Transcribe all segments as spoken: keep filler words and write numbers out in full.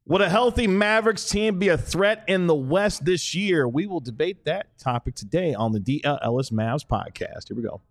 Would a healthy Mavericks team be a threat in the West this year? We will debate that topic today on the D L Ellis Mavs podcast. Here we go.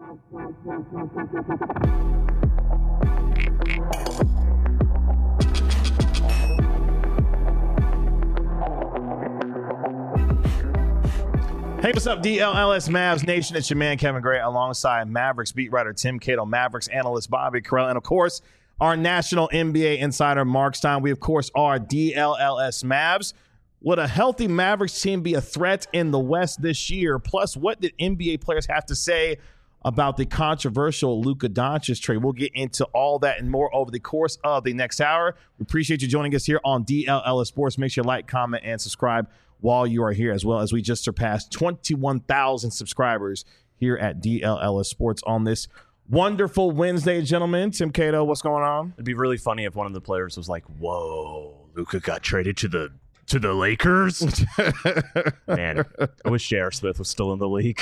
Hey, what's up, D L L S Mavs Nation? It's your man, Kevin Gray, alongside Mavericks beat writer Tim Cato, Mavericks analyst Bobby Carell, and, of course, our national N B A insider, Mark Stein. We, of course, are D L L S Mavs. Would a healthy Mavericks team be a threat in the West this year? Plus, what did N B A players have to say about the controversial Luka Doncic trade? We'll get into all that and more over the course of the next hour. We appreciate you joining us here on D L L S Sports. Make sure you like, comment, and subscribe while you are here, as well as we just surpassed twenty-one thousand subscribers here at D L L S Sports on this wonderful Wednesday, gentlemen. Tim Cato, what's going on? It'd be really funny if one of the players was like, whoa, Luka got traded to the to the Lakers? Man, I wish J R. Smith was still in the league.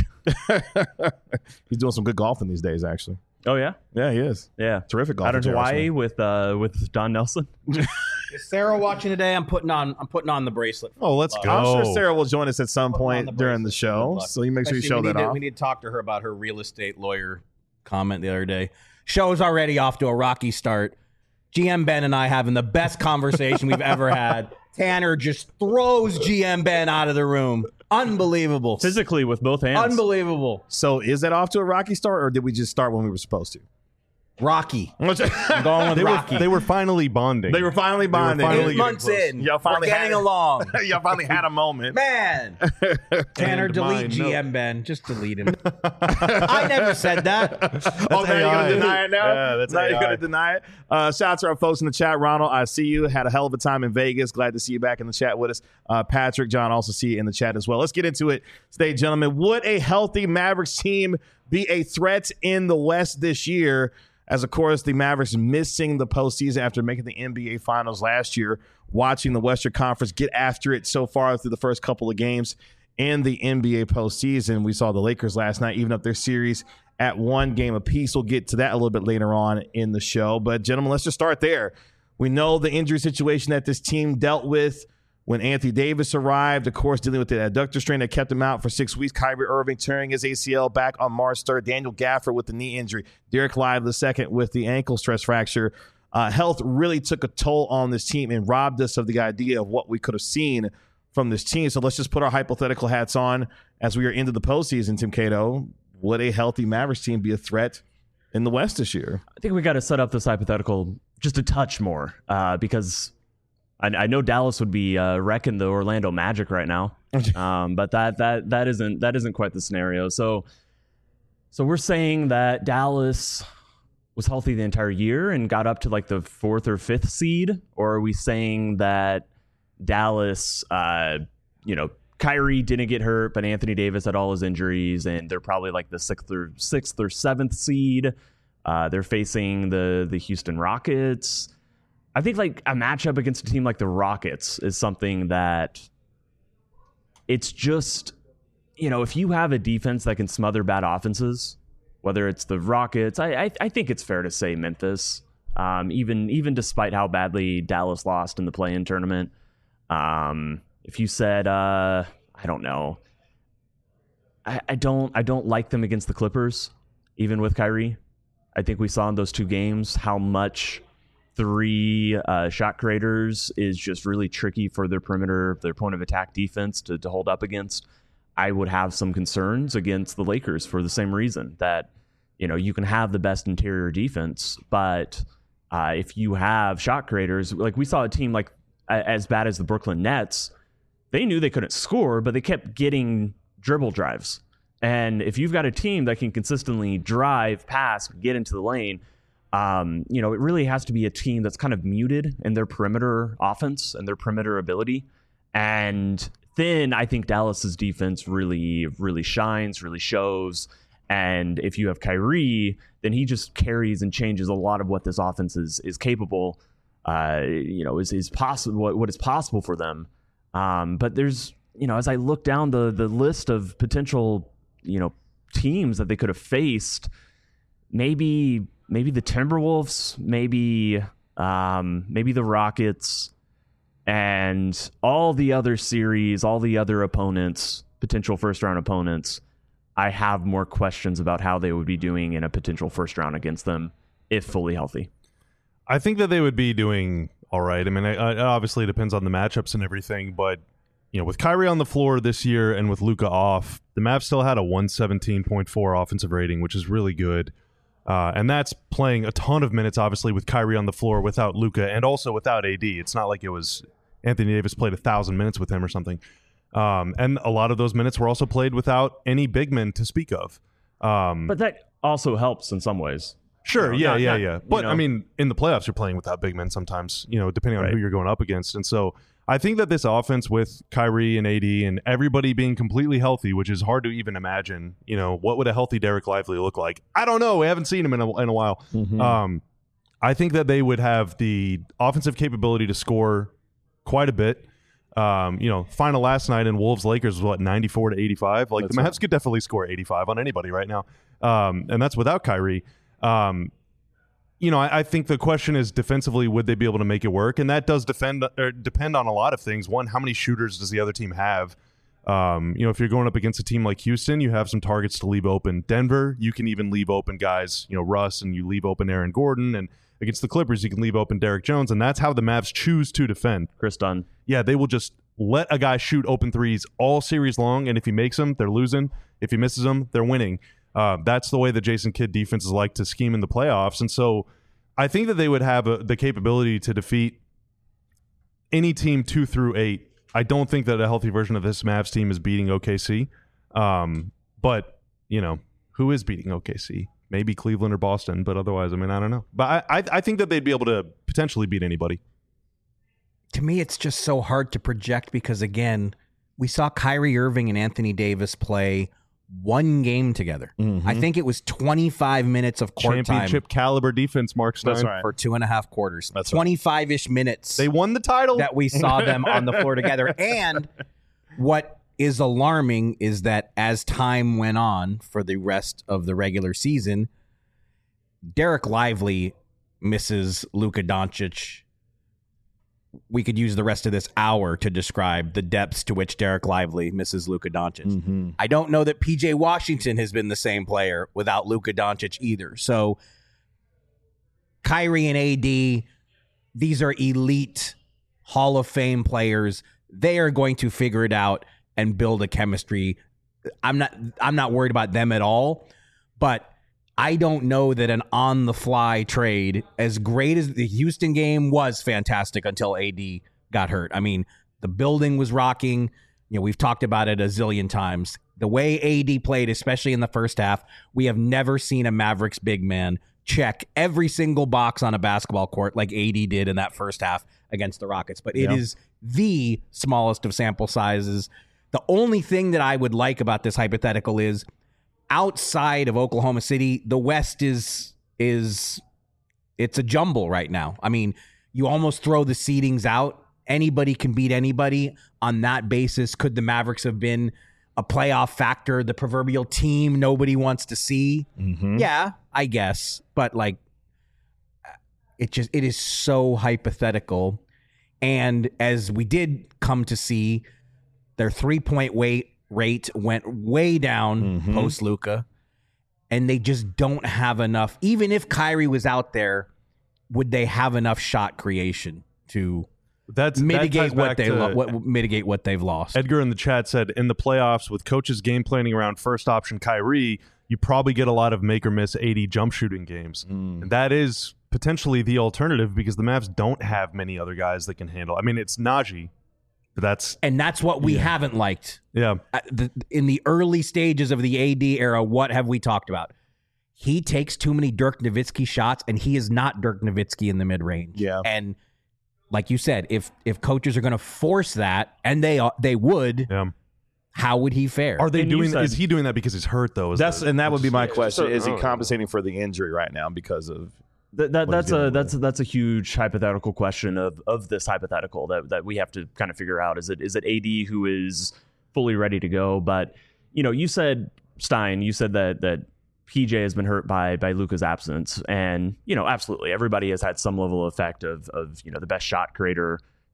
He's doing some good golfing these days, actually. Oh, yeah? Yeah, he is. Yeah. Terrific golf. Out in Hawaii with uh, with Don Nelson. Is Sarah watching today? I'm putting on I'm putting on the bracelet. Oh, let's Love. go. I'm sure Sarah will join us at some point the during the show. So you make sure you show that to, off. We need to talk to her about her real estate lawyer comment the other day. Show's already off to a rocky start. G M Ben and I having the best conversation we've ever had. Tanner just throws G M Ben out of the room. Unbelievable. Physically with both hands. Unbelievable. So is that off to a rocky start, or did we just start when we were supposed to? Rocky. I'm going with they Rocky. Were, they were finally bonding. They were finally bonding. They were finally Eight months in. Y'all finally We're getting had, along. Y'all finally had a moment. Man. Tanner, And delete mine, G M no. Ben. Just delete him. I never said that. Oh, now you're going to deny it now? Yeah, that's now A I. you're going to deny it? Uh, shout out to our folks in the chat. Ronald, I see you. Had a hell of a time in Vegas. Glad to see you back in the chat with us. Uh, Patrick, John, also see you in the chat as well. Let's get into it today, gentlemen. Would a healthy Mavericks team be a threat in the West this year? As, of course, the Mavericks missing the postseason after making the N B A Finals last year, watching the Western Conference get after it so far through the first couple of games in the N B A postseason. We saw the Lakers last night even up their series at one game apiece. We'll get to that a little bit later on in the show. But, gentlemen, let's just start there. We know the injury situation that this team dealt with when Anthony Davis arrived, of course, dealing with the adductor strain that kept him out for six weeks. Kyrie Irving tearing his A C L back on March third. Daniel Gafford with the knee injury. Derek Lively the second with the ankle stress fracture. Uh, health really took a toll on this team and robbed us of the idea of what we could have seen from this team. So let's just put our hypothetical hats on as we are into the postseason, Tim Cato. Would a healthy Mavericks team be a threat in the West this year? I think we got to set up this hypothetical just a touch more uh, because I, I know Dallas would be uh, wrecking the Orlando Magic right now, um, but that that that isn't that isn't quite the scenario. So, so we're saying that Dallas was healthy the entire year and got up to like the fourth or fifth seed, or are we saying that Dallas, uh, you know, Kyrie didn't get hurt, but Anthony Davis had all his injuries, and they're probably like the sixth or sixth or seventh seed. Uh, they're facing the the Houston Rockets. I think like a matchup against a team like the Rockets is something that it's just, you know, if you have a defense that can smother bad offenses, whether it's the Rockets, I I, I think it's fair to say Memphis, um, even even despite how badly Dallas lost in the play-in tournament. Um, if you said, uh, I don't know, I, I don't I don't like them against the Clippers, even with Kyrie. I think we saw in those two games how much three uh, shot creators is just really tricky for their perimeter, their point of attack defense to, to hold up against. I would have some concerns against the Lakers for the same reason that, you know, you can have the best interior defense, but uh, if you have shot creators, like we saw a team like as bad as the Brooklyn Nets, they knew they couldn't score, but they kept getting dribble drives. And if you've got a team that can consistently drive, pass, get into the lane, Um, you know, it really has to be a team that's kind of muted in their perimeter offense and their perimeter ability. And then I think Dallas's defense really, really shines, really shows. And if you have Kyrie, then he just carries and changes a lot of what this offense is is capable, uh, you know, is is possible what, what is possible for them. Um, but there's, you know, as I look down the the list of potential, you know, teams that they could have faced, maybe. Maybe the Timberwolves, maybe um, maybe the Rockets, And all the other series, all the other opponents, potential first round opponents, I have more questions about how they would be doing in a potential first round against them if fully healthy. I think that they would be doing all right. I mean, it, it obviously depends on the matchups and everything, but you know, with Kyrie on the floor this year and with Luka off, the Mavs still had a one seventeen point four offensive rating, which is really good. Uh, and that's playing a ton of minutes, obviously, with Kyrie on the floor without Luka and also without A D. It's not like it was Anthony Davis played a thousand minutes with him or something. Um, and a lot of those minutes were also played without any big men to speak of. Um, But that also helps in some ways. Sure, You know, yeah, not- yeah, not, yeah. But you know. I mean, in the playoffs, you're playing without big men sometimes, you know, depending on Right. who you're going up against. And so I think that this offense with Kyrie and A D and everybody being completely healthy, which is hard to even imagine, you know, what would a healthy Derek Lively look like? I don't know. We haven't seen him in a, in a while. Mm-hmm. Um, I think that they would have the offensive capability to score quite a bit. Um, you know, final last night in Wolves Lakers was what, ninety-four to eighty-five. Like That's the Mavs right. could definitely score eighty-five on anybody right now, um, and that's without Kyrie. Um, you know, I, I think the question is defensively, would they be able to make it work? And that does defend or depend on a lot of things. One, how many shooters does the other team have? Um, you know, if you're going up against a team like Houston, you have some targets to leave open. Denver, you can even leave open guys, you know, Russ, and you leave open Aaron Gordon. And against the Clippers, you can leave open Derek Jones. And that's how the Mavs choose to defend. Chris Dunn. Yeah, they will just let a guy shoot open threes all series long. And if he makes them, they're losing. If he misses them, they're winning. Uh, that's the way the Jason Kidd defenses like to scheme in the playoffs. And so I think that they would have a, the capability to defeat any team two through eight. I don't think that a healthy version of this Mavs team is beating O K C. Um, but, you know, who is beating O K C? Maybe Cleveland or Boston, but otherwise, I mean, I don't know. But I, I, I think that they'd be able to potentially beat anybody. To me, it's just so hard to project because, again, we saw Kyrie Irving and Anthony Davis play one game together. Mm-hmm. I think it was twenty-five minutes of court Championship time caliber defense, Mark Stein. That's right. for two and a half quarters. That's right. twenty-five-ish minutes They won the title. that we saw them on the floor together. And what is alarming is that as time went on for the rest of the regular season, Derek Lively misses Luka Doncic. We could use the rest of this hour to describe the depths to which Derek Lively misses Luka Doncic. Mm-hmm. I don't know that P J Washington has been the same player without Luka Doncic either. So Kyrie and A D, these are elite Hall of Fame players. They are going to figure it out and build a chemistry. I'm not I'm not worried about them at all, but I don't know that an on-the-fly trade, as great as the Houston game was fantastic until A D got hurt. I mean, the building was rocking. You know, we've talked about it a zillion times. The way A D played, especially in the first half, we have never seen a Mavericks big man check every single box on a basketball court like A D did in that first half against the Rockets. But it Yeah. is the smallest of sample sizes. The only thing that I would like about this hypothetical is outside of Oklahoma City, the West is is it's a jumble right now. I mean, you almost throw the seedings out. Anybody can beat anybody on that basis. Could the Mavericks have been a playoff factor, the proverbial team nobody wants to see? Mm-hmm. Yeah, I guess. But like it just it is so hypothetical. And as we did come to see, their three-point weight rate went way down Mhm. post Luka, and they just don't have enough. Even if Kyrie was out there, would they have enough shot creation to That's that mitigate ties what back they to- lo- what mitigate what they've lost? Edgar in the chat said, in the playoffs, with coaches game planning around first option Kyrie, you probably get a lot of make or miss eighty jump shooting games. Mm. And that is potentially the alternative because the Mavs don't have many other guys that can handle. I mean, it's Najee, but that's, And that's what we haven't liked. yeah. Uh, the, in the early stages of the A D era, what have we talked about? He takes too many Dirk Nowitzki shots, and he is not Dirk Nowitzki in the mid range. Yeah. And like you said, if if coaches are going to force that, and they are, they would, Yeah. how would he fare? Are they And you doing, said- is he doing that because he's hurt, though? Is That's the- and that would be my Yeah, question: so- is he oh. compensating for the injury right now because of? That, that What that's he's dealing a with. that's a, that's a huge hypothetical question of of this hypothetical that that we have to kind of figure out. Is it is it A D who is fully ready to go? But you know, you said Stein, you said that that P J has been hurt by by Luka's absence, and you know, absolutely, everybody has had some level of effect of of you know the best shot creator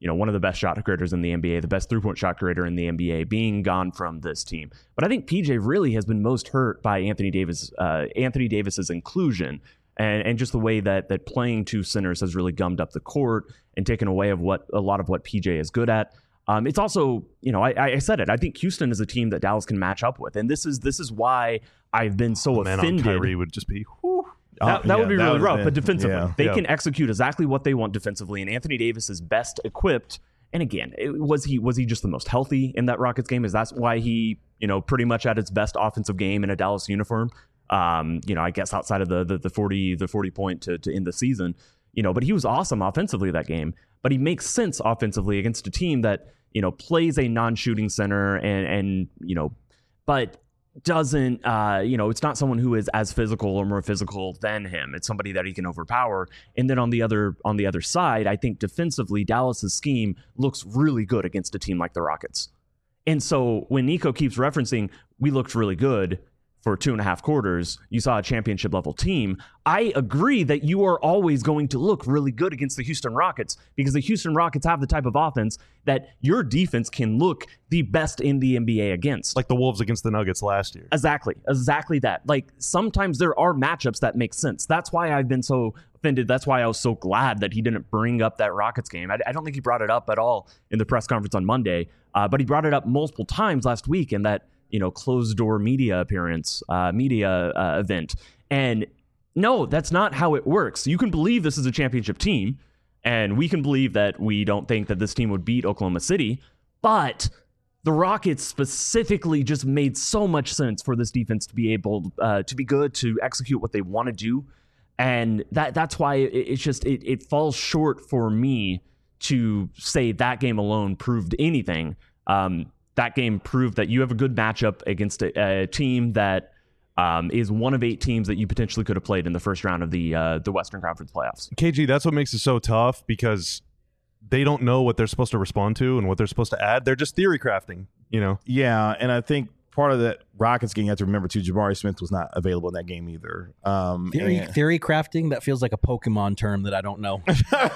you know, one of the best shot creators in the N B A, the best three-point shot creator in the N B A, being gone from this team. But I think P J really has been most hurt by Anthony Davis, uh, Anthony Davis's inclusion, and and just the way that that playing two centers has really gummed up the court and taken away of what a lot of what P J is good at. Um, it's also, you know, I, I said it. I think Houston is a team that Dallas can match up with, and this is this is why I've been so Man offended. on Kyrie would just be. Whew. That, that yeah, would be that really would've rough, been- but defensively, yeah. they Yeah. can execute exactly what they want defensively, and Anthony Davis is best equipped. And again, it, was he was he just the most healthy in that Rockets game? Is that why he, you know, pretty much had his best offensive game in a Dallas uniform? Um, you know, I guess outside of the the, the forty the forty point to, to end the season, you know, but he was awesome offensively that game. But he makes sense offensively against a team that, you know, plays a non-shooting center and and you know, but doesn't uh you know, it's not someone who is as physical or more physical than him. It's somebody that he can overpower. And then on the other on the other side, I think defensively Dallas's scheme looks really good against a team like the Rockets. And so when Nico keeps referencing we looked really good for two and a half quarters, you saw a championship level team. I agree that you are always going to look really good against the Houston Rockets because the Houston Rockets have the type of offense that your defense can look the best in the N B A against. Like the Wolves against the Nuggets last year. Exactly. Exactly that. Like sometimes there are matchups that make sense. That's why I've been so offended. That's why I was so glad that he didn't bring up that Rockets game. I, I don't think he brought it up at all in the press conference on Monday, uh, but he brought it up multiple times last week in that, you know, closed door media appearance, uh, media uh, event. And no, that's not how it works. You can believe this is a championship team, and we can believe that we don't think that this team would beat Oklahoma City, but the Rockets specifically just made so much sense for this defense to be able uh, to be good, to execute what they want to do. And that that's why it, it's just, it, it falls short for me to say that game alone proved anything. Um, That game proved that you have a good matchup against a, a team that um, is one of eight teams that you potentially could have played in the first round of the uh, the Western Conference playoffs. K G, that's what makes it so tough because they don't know what they're supposed to respond to and what they're supposed to add. They're just theory crafting, you know? Yeah, and I think part of that Rockets game, you have to remember too, Jabari Smith was not available in that game either. Um, Theory, and- theory crafting, that feels like a Pokemon term that I don't know.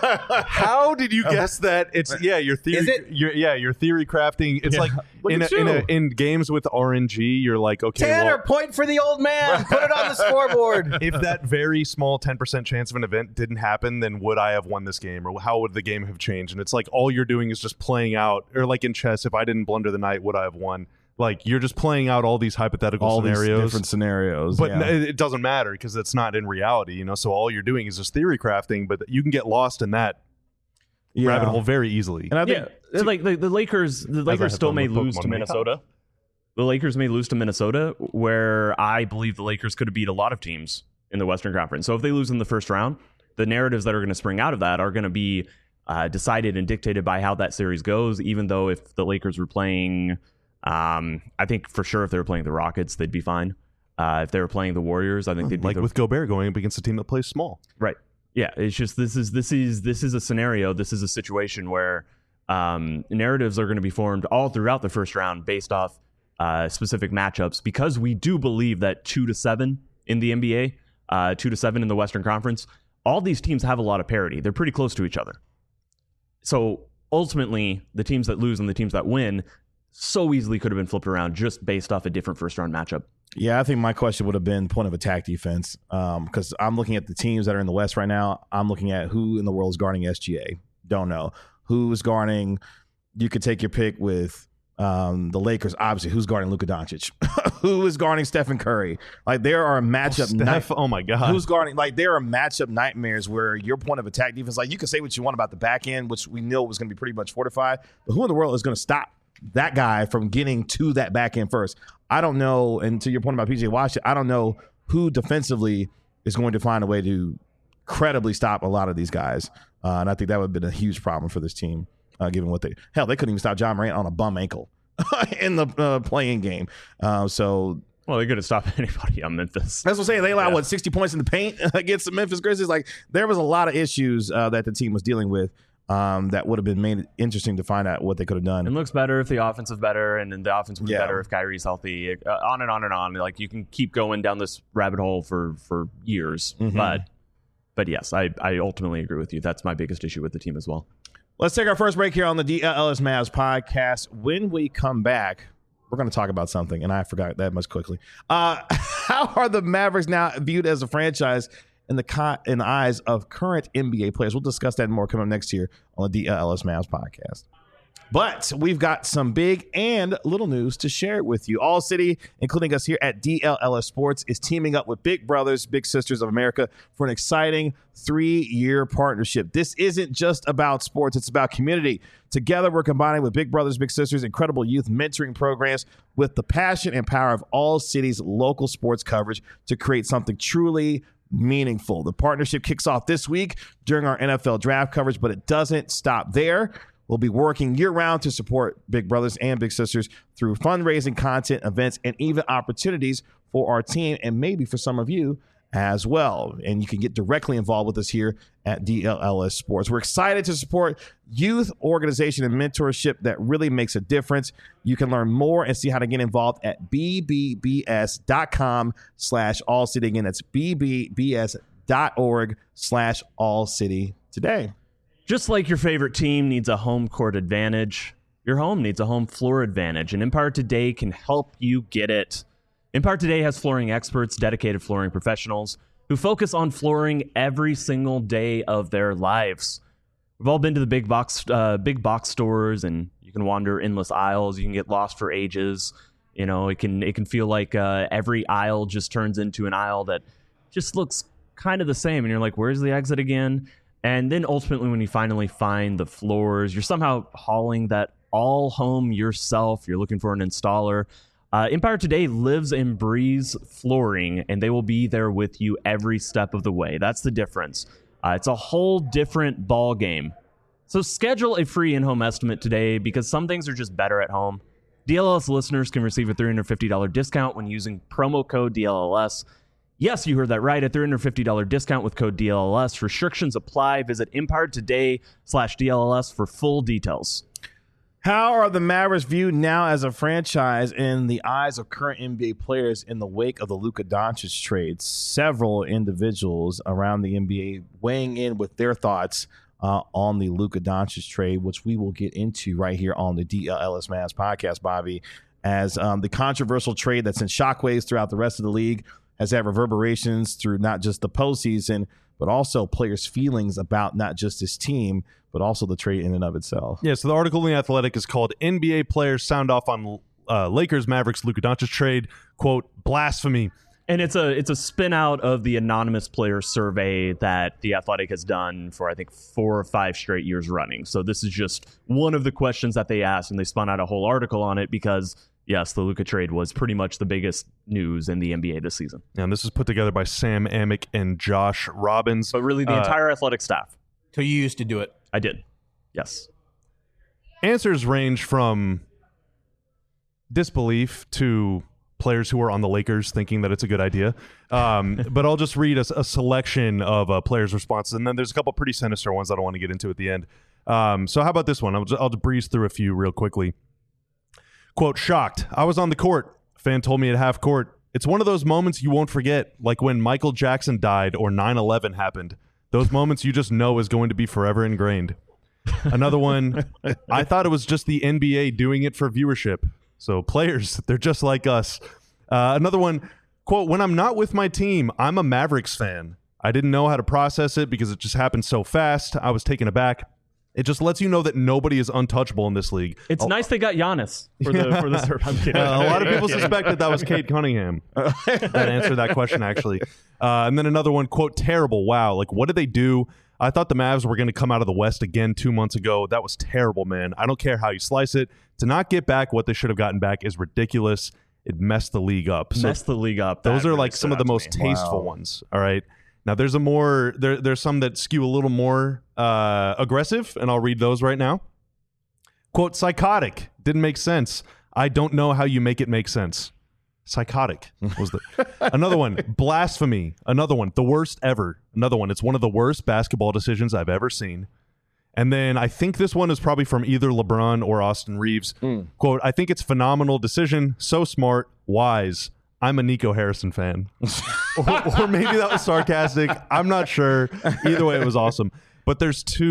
How did you guess that? It's yeah, your theory. Is it? Your, yeah, your theory crafting. It's Yeah. like Look in, at a, in, a, you. in games with R N G, you're like, okay, Tanner, well, point for the old man. Put it on the scoreboard. if that very small ten percent chance of an event didn't happen, then would I have won this game, or how would the game have changed? And it's like all you're doing is just playing out, or like in chess, if I didn't blunder the knight, would I have won? Like you're just playing out all these hypothetical all scenarios. these different scenarios. But yeah. n- it doesn't matter because it's not in reality, you know. So all you're doing is just theory crafting, but you can get lost in that Yeah. rabbit hole very easily. And I think Yeah, like the, the Lakers, the I Lakers have still fun may with lose Pokemon to Mayhem. Minnesota. The Lakers may lose to Minnesota, where I believe the Lakers could have beat a lot of teams in the Western Conference. So if they lose in the first round, the narratives that are going to spring out of that are going to be uh, decided and dictated by how that series goes. Even though if the Lakers were playing, um, I think for sure if they were playing the Rockets, they'd be fine. Uh, if they were playing the Warriors, I think they'd be like the, with Gobert going up against a team that plays small. Right. Yeah. It's just this is this is this is a scenario. This is a situation where um, narratives are going to be formed all throughout the first round based off uh, specific matchups, because we do believe that two to seven in the N B A, uh, two to seven in the Western Conference, all these teams have a lot of parity. They're pretty close to each other. So ultimately, the teams that lose and the teams that win so easily could have been flipped around just based off a different first round matchup. Yeah, I think my question would have been point of attack defense, because I'm looking at the teams that are in the West right now. I'm looking at who in the world is guarding S G A. Don't know. Who's guarding, you could take your pick with um, the Lakers, obviously. Who's guarding Luka Doncic? Who is guarding Stephen Curry? Like, there are matchup Oh, night- Steph, oh my God. Who's guarding? Like, there are matchup nightmares where your point of attack defense, like, you can say what you want about the back end, which we know was going to be pretty much fortified, but who in the world is going to stop that guy from getting to that back end first? I don't know. And to your point about P J Washington, I don't know who defensively is going to find a way to credibly stop a lot of these guys. Uh, and I think that would have been a huge problem for this team, uh, given what they – hell, they couldn't even stop John Morant on a bum ankle in the uh, playing game. Uh, so – Well, they couldn't stop anybody on Memphis. that's what I'm saying. They allowed, Yeah. what, sixty points in the paint against the Memphis Grizzlies? Like, there was a lot of issues uh, that the team was dealing with um, that would have been made interesting to find out what they could have done. It looks better if the offense is better, and then the offense would be Yeah. better if Kyrie's healthy. Uh, on and on and on. Like, you can keep going down this rabbit hole for for years. Mhm. But but yes, I I ultimately agree with you. That's my biggest issue with the team as well. Let's take our first break here on the D L L S Mavs podcast. When we come back, we're going to talk about something, and I forgot that much quickly. Uh, how are the Mavericks now viewed as a franchise in the co- in the eyes of current N B A players? We'll discuss that more coming up next year on the D L L S Mavs podcast. But we've got some big and little news to share with you. All City, including us here at D L L S Sports, is teaming up with Big Brothers, Big Sisters of America for an exciting three-year partnership. This isn't just about sports, it's about community. Together, we're combining with Big Brothers, Big Sisters, incredible youth mentoring programs with the passion and power of All City's local sports coverage to create something truly meaningful. The partnership kicks off this week during our N F L draft coverage, but it doesn't stop there. We'll be working year-round to support Big Brothers and Big Sisters through fundraising, content, events, and even opportunities for our team and maybe for some of you as well. And you can get directly involved with us here at D L L S Sports. We're excited to support youth organization and mentorship that really makes a difference. You can learn more and see how to get involved at b b b s dot com slash all city. Again, that's b b b s dot org slash all city today. Just like your favorite team needs a home court advantage, your home needs a home floor advantage, and Empire Today can help you get it. Empire Today has flooring experts, dedicated flooring professionals who focus on flooring every single day of their lives. We've all been to the big box, uh, big box stores, and you can wander endless aisles. You can get lost for ages. You know, it can it can feel like uh, every aisle just turns into an aisle that just looks kind of the same, and you're like, "Where's the exit again?" And then ultimately, when you finally find the floors, you're somehow hauling that all home yourself. You're looking for an installer. Uh, Empire Today lives and breathes flooring, and they will be there with you every step of the way. That's the difference. Uh, it's a whole different ball game. So schedule a free in-home estimate today because some things are just better at home. D L L S listeners can receive a three hundred fifty dollars discount when using promo code D L L S. Yes, you heard that right. A three hundred fifty dollars discount with code D L L S. Restrictions apply. Visit Empire Today slash D L L S for full details. How are the Mavericks viewed now as a franchise in the eyes of current N B A players in the wake of the Luka Doncic trade? Several individuals around the N B A weighing in with their thoughts uh, on the Luka Doncic trade, which we will get into right here on the D L L S Mavs podcast, Bobby, as um, the controversial trade that sent shockwaves throughout the rest of the league has had reverberations through not just the postseason, but also players' feelings about not just his team, but also the trade in and of itself. Yeah, so the article in The Athletic is called N B A Players Sound Off on uh, Lakers Mavericks Luka Doncic Trade, quote, blasphemy. And it's a it's a spin out of the anonymous player survey that The Athletic has done for, I think, four or five straight years running. So this is just one of the questions that they asked, and they spun out a whole article on it because, yes, the Luka trade was pretty much the biggest news in the N B A this season. And this is put together by Sam Amick and Josh Robbins. But really the uh, entire Athletic staff. So you used to do it. I did. Yes. Answers range from disbelief to players who are on the Lakers thinking that it's a good idea. Um, but I'll just read a, a selection of uh, players' responses, and then there's a couple pretty sinister ones that I want to get into at the end. Um, so how about this one? I'll just, I'll just breeze through a few real quickly. Quote, shocked. I was on the court. Fan told me at half court. It's one of those moments you won't forget, like when Michael Jackson died or nine eleven happened. Those moments you just know is going to be forever ingrained. Another one, I thought it was just the N B A doing it for viewership. So players, they're just like us. Uh, another one, quote, when I'm not with my team, I'm a Mavericks fan. I didn't know how to process it because it just happened so fast. I was taken aback. It just lets you know that nobody is untouchable in this league. It's oh, nice they got Giannis for the for the survey. I'm kidding. Uh, a lot of people suspected that was Cade Cunningham that answered that question, actually. Uh, and then another one, quote, terrible. Wow. Like, what did they do? I thought the Mavs were going to come out of the West again two months ago. That was terrible, man. I don't care how you slice it. To not get back what they should have gotten back is ridiculous. It messed the league up. So messed the league up. Those That are really like some stood of the out to most me. tasteful Wow. ones. All right. Now, there's a more there. There's some that skew a little more uh, aggressive, and I'll read those right now. Quote, psychotic. Didn't make sense. I don't know how you make it make sense. Psychotic was the another one. Blasphemy. Another one. The worst ever. Another one. It's one of the worst basketball decisions I've ever seen. And then I think this one is probably from either LeBron or Austin Reeves. Mm. Quote, I think it's phenomenal decision. So smart. Wise. I'm a Nico Harrison fan. or, or maybe that was sarcastic. I'm not sure. Either way, it was awesome. But there's two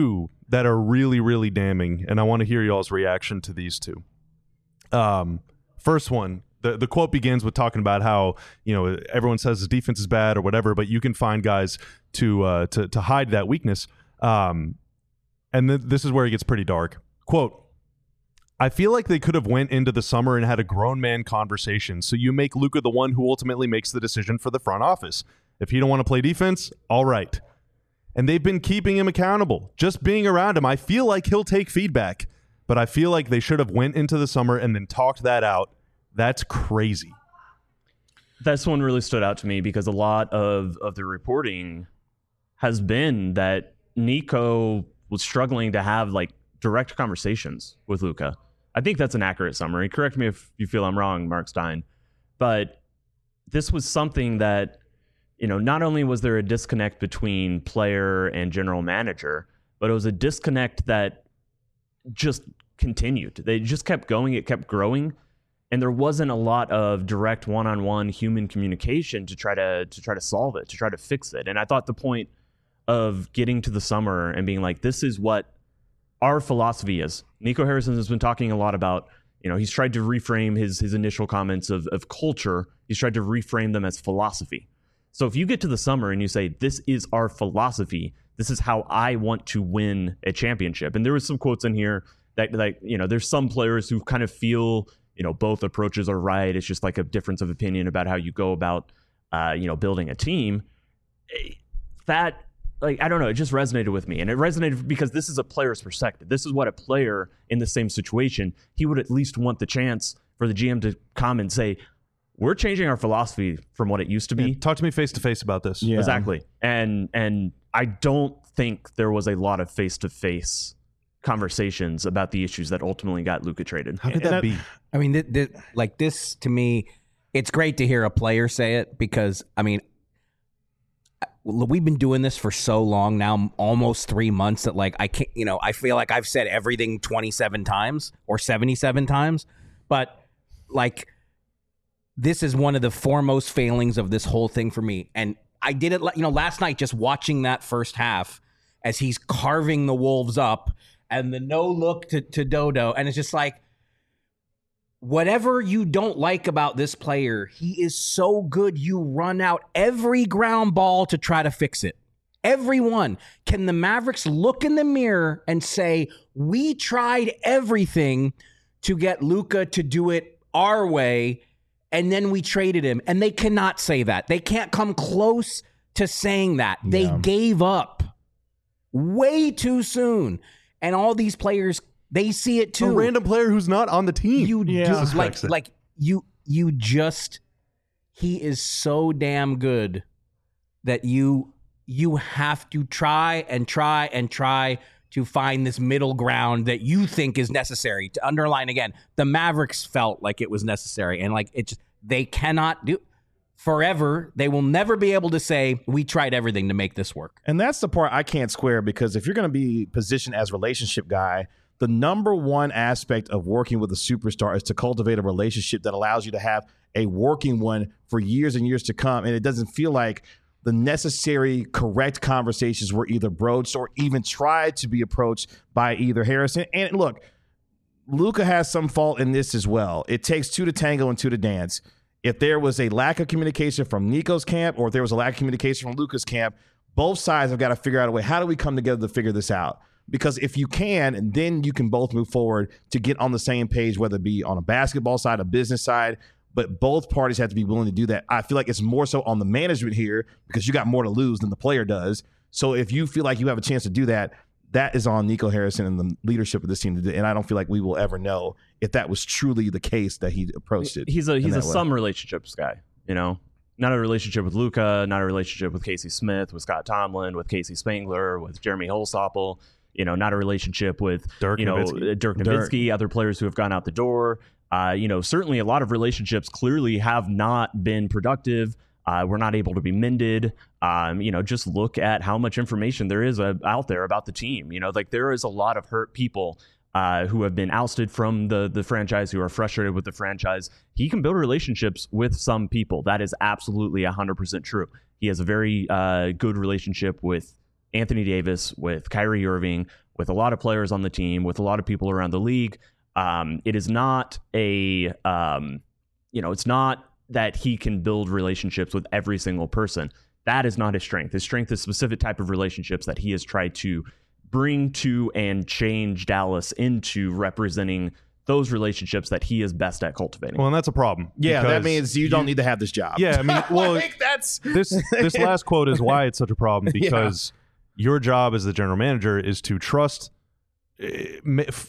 that are really, really damning, and I want to hear y'all's reaction to these two. Um, first one, the the quote begins with talking about how, you know, everyone says the defense is bad or whatever, but you can find guys to uh, to to hide that weakness. Um, and th- this is where it gets pretty dark. Quote, I feel like they could have went into the summer and had a grown man conversation. So you make Luka the one who ultimately makes the decision for the front office. If he don't want to play defense, all right. And they've been keeping him accountable. Just being around him, I feel like he'll take feedback. But I feel like they should have went into the summer and then talked that out. That's crazy. This one really stood out to me because a lot of, of the reporting has been that Nico was struggling to have like direct conversations with Luka. I think that's an accurate summary. Correct me if you feel I'm wrong, Mark Stein. But this was something that, you know, not only was there a disconnect between player and general manager, but it was a disconnect that just continued. They just kept going. It kept growing. And there wasn't a lot of direct one-on-one human communication to try to to try to solve it, to try to fix it. And I thought the point of getting to the summer and being like, this is what our philosophy is. Nico Harrison has been talking a lot about, you know, he's tried to reframe his his initial comments of, of culture. He's tried to reframe them as philosophy. So if you get to the summer and you say, this is our philosophy, this is how I want to win a championship. And there was some quotes in here that, like, you know, there's some players who kind of feel, you know, both approaches are right. It's just like a difference of opinion about how you go about, uh, you know, building a team. That, like, I don't know, it just resonated with me. And it resonated because this is a player's perspective. This is what a player in the same situation, he would at least want the chance for the G M to come and say, we're changing our philosophy from what it used to be. Yeah, talk to me face to face about this. Yeah. Exactly. And and I don't think there was a lot of face to face conversations about the issues that ultimately got Luka traded. How could And that that- be? I mean, th- th- like this to me, it's great to hear a player say it because, I mean, we've been doing this for so long now, almost three months that like I can't, you know, I feel like I've said everything twenty-seven times or seventy-seven times, but like this is one of the foremost failings of this whole thing for me. And I did it, you know, last night just watching that first half as he's carving the Wolves up and the no look to, to Dodo. And it's just like, whatever you don't like about this player, he is so good you run out every ground ball to try to fix it. Everyone. Can the Mavericks look in the mirror and say, we tried everything to get Luka to do it our way, and then we traded him? And they cannot say that. They can't come close to saying that. They Yeah. gave up way too soon. And all these players, they see it too. A random player who's not on the team. You Yeah. just like Suspects it. like you you just he is so damn good that you you have to try and try and try to find this middle ground that you think is necessary. To underline again, the Mavericks felt like it was necessary, and like it just they cannot do forever. They will never be able to say we tried everything to make this work. And that's the part I can't square, because if you're going to be positioned as relationship guy, the number one aspect of working with a superstar is to cultivate a relationship that allows you to have a working one for years and years to come. And it doesn't feel like the necessary correct conversations were either broached or even tried to be approached by either Harrison. And look, Luka has some fault in this as well. It takes two to tango and two to dance. If there was a lack of communication from Nico's camp, or if there was a lack of communication from Luka's camp, both sides have got to figure out a way. How do we come together to figure this out? Because if you can, then you can both move forward to get on the same page, whether it be on a basketball side, a business side. But both parties have to be willing to do that. I feel like it's more so on the management here, because you got more to lose than the player does. So if you feel like you have a chance to do that, that is on Nico Harrison and the leadership of this team to do. And I don't feel like we will ever know if that was truly the case that he approached it. He's a he's in a that way. some relationships guy, you know. Not a relationship with Luka, not a relationship with Casey Smith, with Scott Tomlin, with Casey Spangler, with Jeremy Holstoppel. You know, not a relationship with Dirk you know Nowitzki. uh, Dirk Nowitzki, other players who have gone out the door. Uh, you know, certainly a lot of relationships clearly have not been productive. Uh, we're not able to be mended. Um, you know, just look at how much information there is uh, out there about the team. You know, like there is a lot of hurt people uh, who have been ousted from the the franchise, who are frustrated with the franchise. He can build relationships with some people. That is absolutely one hundred percent true. He has a very uh, good relationship with Anthony Davis, with Kyrie Irving, with a lot of players on the team, with a lot of people around the league. Um, it is not a, um, you know, it's not that he can build relationships with every single person. That is not his strength. His strength is specific type of relationships that he has tried to bring to and change Dallas into representing those relationships that he is best at cultivating. Well, and that's a problem. Yeah, that because means you don't need to have this job. Yeah, I mean, well, like that's this this last quote is why it's such a problem, because your job as the general manager is to trust, uh, ma- f-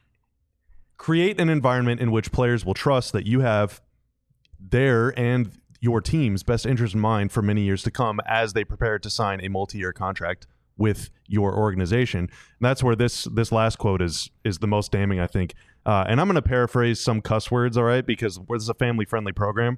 create an environment in which players will trust that you have their and your team's best interest in mind for many years to come as they prepare to sign a multi-year contract with your organization. And that's where this this last quote is is the most damning, I think. Uh, and I'm going to paraphrase some cuss words, all right, because this is a family-friendly program.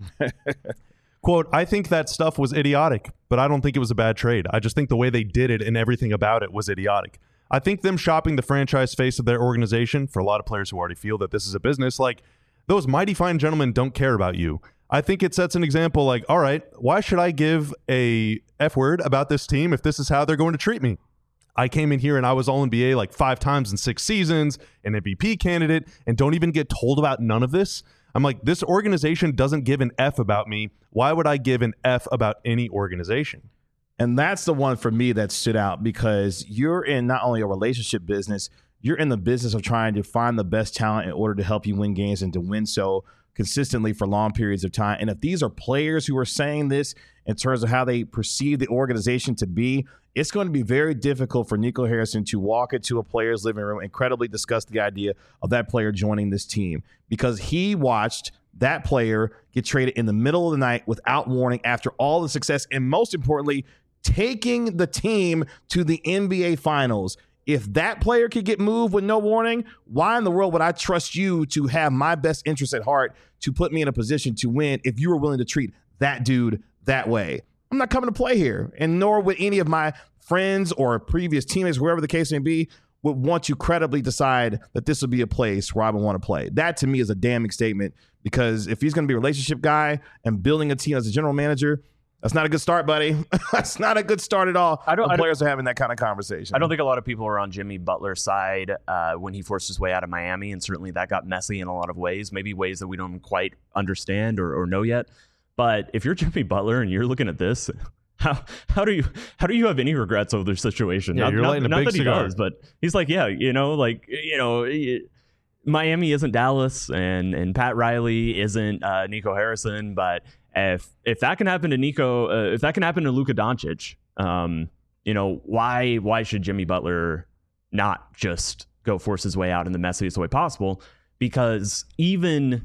Quote, I think that stuff was idiotic, but I don't think it was a bad trade. I just think the way they did it and everything about it was idiotic. I think them shopping the franchise face of their organization, for a lot of players who already feel that this is a business, like, those mighty fine gentlemen don't care about you. I think it sets an example like, all right, why should I give a F word about this team if this is how they're going to treat me? I came in here and I was all N B A like five times in six seasons, an M V P candidate, and don't even get told about none of this. I'm like, this organization doesn't give an F about me. Why would I give an F about any organization? And that's the one for me that stood out, because you're in not only a relationship business, you're in the business of trying to find the best talent in order to help you win games and to win so consistently for long periods of time. And if these are players who are saying this in terms of how they perceive the organization to be, it's going to be very difficult for Nico Harrison to walk into a player's living room and credibly discuss the idea of that player joining this team, because he watched that player get traded in the middle of the night without warning after all the success, and most importantly, taking the team to the N B A Finals. If that player could get moved with no warning, why in the world would I trust you to have my best interest at heart to put me in a position to win if you were willing to treat that dude that way? I'm not coming to play here, and nor would any of my friends or previous teammates, whoever the case may be, would want to credibly decide that this would be a place where I would want to play. That to me is a damning statement, because if he's going to be a relationship guy and building a team as a general manager, that's not a good start, buddy. That's not a good start at all. I don't. When I players don't, are having that kind of conversation. I don't think a lot of people are on Jimmy Butler's side uh, when he forced his way out of Miami, and certainly that got messy in a lot of ways, maybe ways that we don't quite understand or, or know yet. But if you're Jimmy Butler and you're looking at this, how how do you how do you have any regrets over the situation? Yeah, not you're not, lighting a not big that he cigar. does, but he's like, yeah, you know, like you know. It, Miami isn't Dallas, and and Pat Riley isn't uh, Nico Harrison, but if if that can happen to Nico, uh, if that can happen to Luka Doncic, um, you know, why why should Jimmy Butler not just go force his way out in the messiest way possible? Because even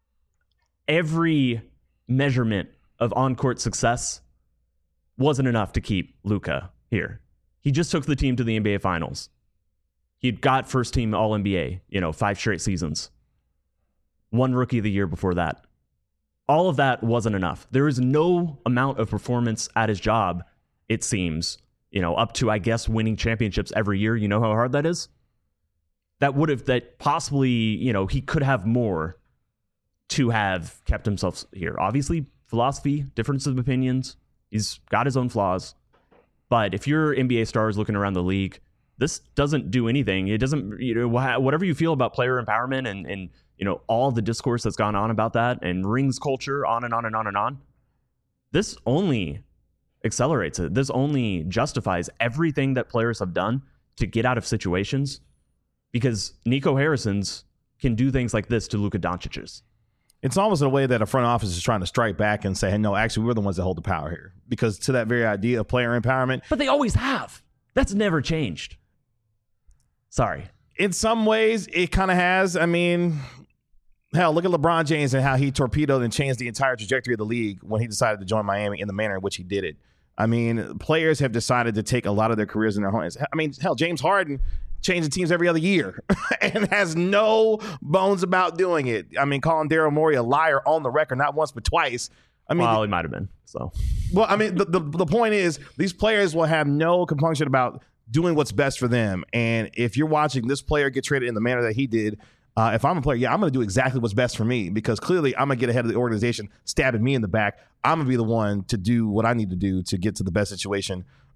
every measurement of on-court success wasn't enough to keep Luka here. He just took the team to the N B A Finals. He got first team All N B A, you know, five straight seasons. One Rookie of the Year before that. All of that wasn't enough. There is no amount of performance at his job, it seems, you know, up to, I guess, winning championships every year. You know how hard that is? That would have, that possibly, you know, he could have more to have kept himself here. Obviously, philosophy, difference of opinions. He's got his own flaws. But if you're N B A stars looking around the league, this doesn't do anything. It doesn't, you know, whatever you feel about player empowerment and, and, you know, all the discourse that's gone on about that and rings culture, on and on and on and on. This only accelerates it. This only justifies everything that players have done to get out of situations, because Nico Harrison's can do things like this to Luka Doncic's. It's almost in a way that a front office is trying to strike back and say, hey, no, actually, we're the ones that hold the power here. Because to that very idea of player empowerment. But they always have. That's never changed. Sorry. In some ways, it kind of has. I mean, hell, look at LeBron James and how he torpedoed and changed the entire trajectory of the league when he decided to join Miami in the manner in which he did it. I mean, players have decided to take a lot of their careers in their hands. I mean, hell, James Harden changing teams every other year and has no bones about doing it. I mean, calling Daryl Morey a liar on the record, not once but twice. I mean, well, he might have been. So, well, I mean, the, the the point is, these players will have no compunction about doing what's best for them. And if you're watching this player get traded in the manner that he did, uh, if I'm a player, yeah, I'm going to do exactly what's best for me, because clearly I'm going to get ahead of the organization, stabbing me in the back. I'm going to be the one to do what I need to do to get to the best situation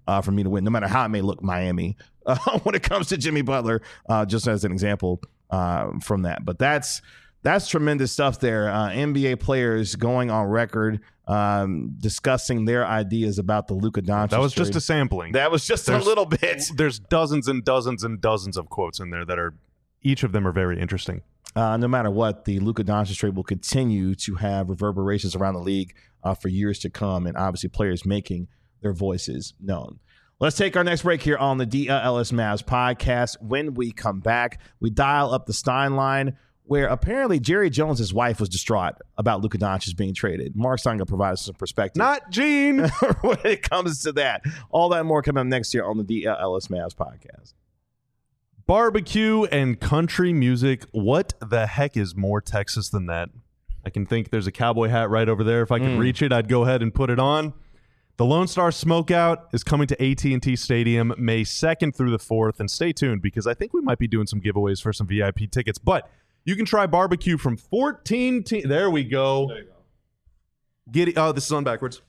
uh, for me to win, no matter how it may look Miami uh, when it comes to Jimmy Butler, uh, just as an example uh, from that. But that's that's tremendous stuff there. Uh, N B A players going on record um, discussing their ideas about the Luka Doncic That was trade. just a sampling. That was just There's- a little bit. There's dozens and dozens and dozens of quotes in there that are, each of them are very interesting. Uh, no matter what, the Luka Doncic trade will continue to have reverberations around the league uh, for years to come, and obviously players making their voices known. Let's take our next break here on the D L L S Mavs podcast. When we come back, we dial up the Stein line, where apparently Jerry Jones' wife was distraught about Luka Doncic being traded. Mark Stein will provide us some perspective. Not Gene. when it comes to that. All that and more coming up next year on the D L L S Mavs podcast. Barbecue and country music. What the heck is more Texas than that? I can think there's a cowboy hat right over there. If I could Mm. reach it, I'd go ahead and put it on. The Lone Star Smokeout is coming to A T and T Stadium May second through the fourth. And stay tuned because I think we might be doing some giveaways for some V I P tickets. But you can try barbecue from fourteen teams. There we go. There you go. Giddy. Oh, this is on backwards.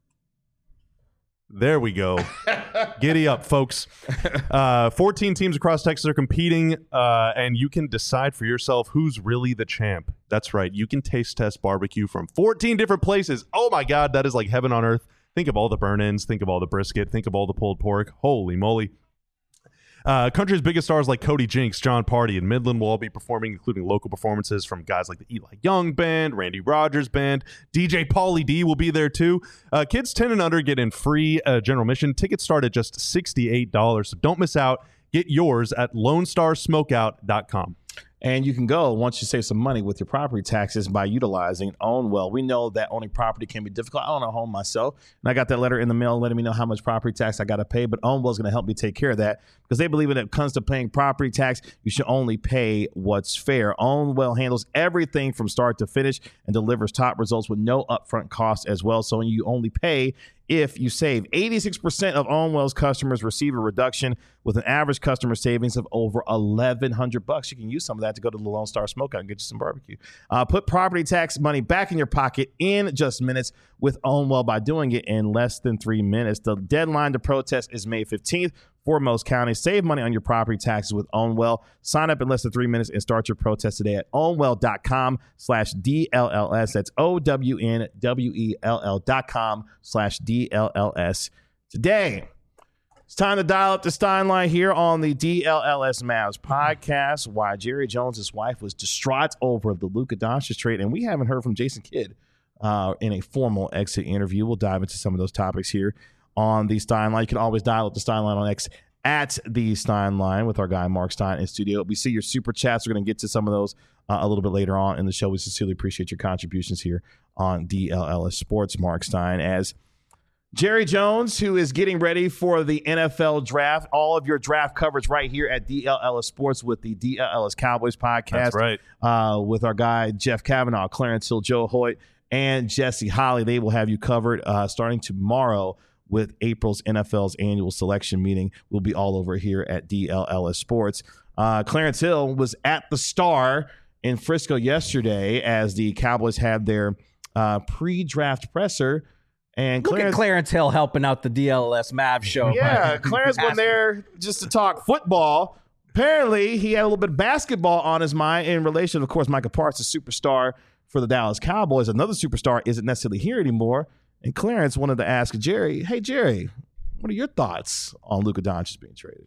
There we go. Giddy up, folks. Uh, fourteen teams across Texas are competing, uh, and you can decide for yourself who's really the champ. That's right. You can taste test barbecue from fourteen different places. Oh, my God. That is like heaven on earth. Think of all the burn-ins. Think of all the brisket. Think of all the pulled pork. Holy moly. Uh, country's biggest stars like Cody Jinks, John Party, and Midland will all be performing, including local performances from guys like the Eli Young Band, Randy Rogers Band. D J Pauly D will be there too. Uh, kids ten and under get in free uh, general admission. Tickets start at just sixty-eight dollars, so don't miss out. Get yours at lone star smokeout dot com. And you can go once you save some money with your property taxes by utilizing Own Well. We know that owning property can be difficult. I own a home myself, and I got that letter in the mail letting me know how much property tax I got to pay. But Own Well is going to help me take care of that because they believe when it comes to paying property tax, you should only pay what's fair. Own Well handles everything from start to finish and delivers top results with no upfront costs as well. So you only pay if you save. eighty-six percent of Own Well's customers receive a reduction with an average customer savings of over eleven hundred bucks. You can use some of that to go to the Lone Star Smokeout and get you some barbecue. Uh, put property tax money back in your pocket in just minutes with Own Well by doing it in less than three minutes. The deadline to protest is May fifteenth for most counties. Save money on your property taxes with Own Well. Sign up in less than three minutes and start your protest today at ownwell.com slash DLLS. That's O-W-N-W-E-L-L dot com slash D-L-L-S today. It's time to dial up the Stein line here on the D L L S Mavs podcast. Why Jerry Jones' wife was distraught over the Luka Doncic trade, and we haven't heard from Jason Kidd uh, in a formal exit interview. We'll dive into some of those topics here on the Stein line. You can always dial up the Stein line on X at the Stein line with our guy Mark Stein in studio. We see your super chats. We're going to get to some of those uh, a little bit later on in the show. We sincerely appreciate your contributions here on D L L S Sports. Mark Stein, as Jerry Jones, who is getting ready for the N F L draft. All of your draft coverage right here at D L L S Sports with the D L L S Cowboys podcast. That's right. Uh, with our guy Jeff Kavanaugh, Clarence Hill, Joe Hoyt, and Jesse Holly. They will have you covered uh, starting tomorrow with April's N F L's annual selection meeting. We'll be all over here at D L L S Sports. Uh, Clarence Hill was at the Star in Frisco yesterday as the Cowboys had their uh, pre-draft presser. And Look Clarence, at Clarence Hill helping out the D L L S Mavs show. yeah, Clarence went there just to talk football. Apparently, he had a little bit of basketball on his mind in relation. Of course, Micah Parks, a superstar for the Dallas Cowboys. Another superstar isn't necessarily here anymore. And Clarence wanted to ask Jerry, hey, Jerry, what are your thoughts on Luka Doncic being traded?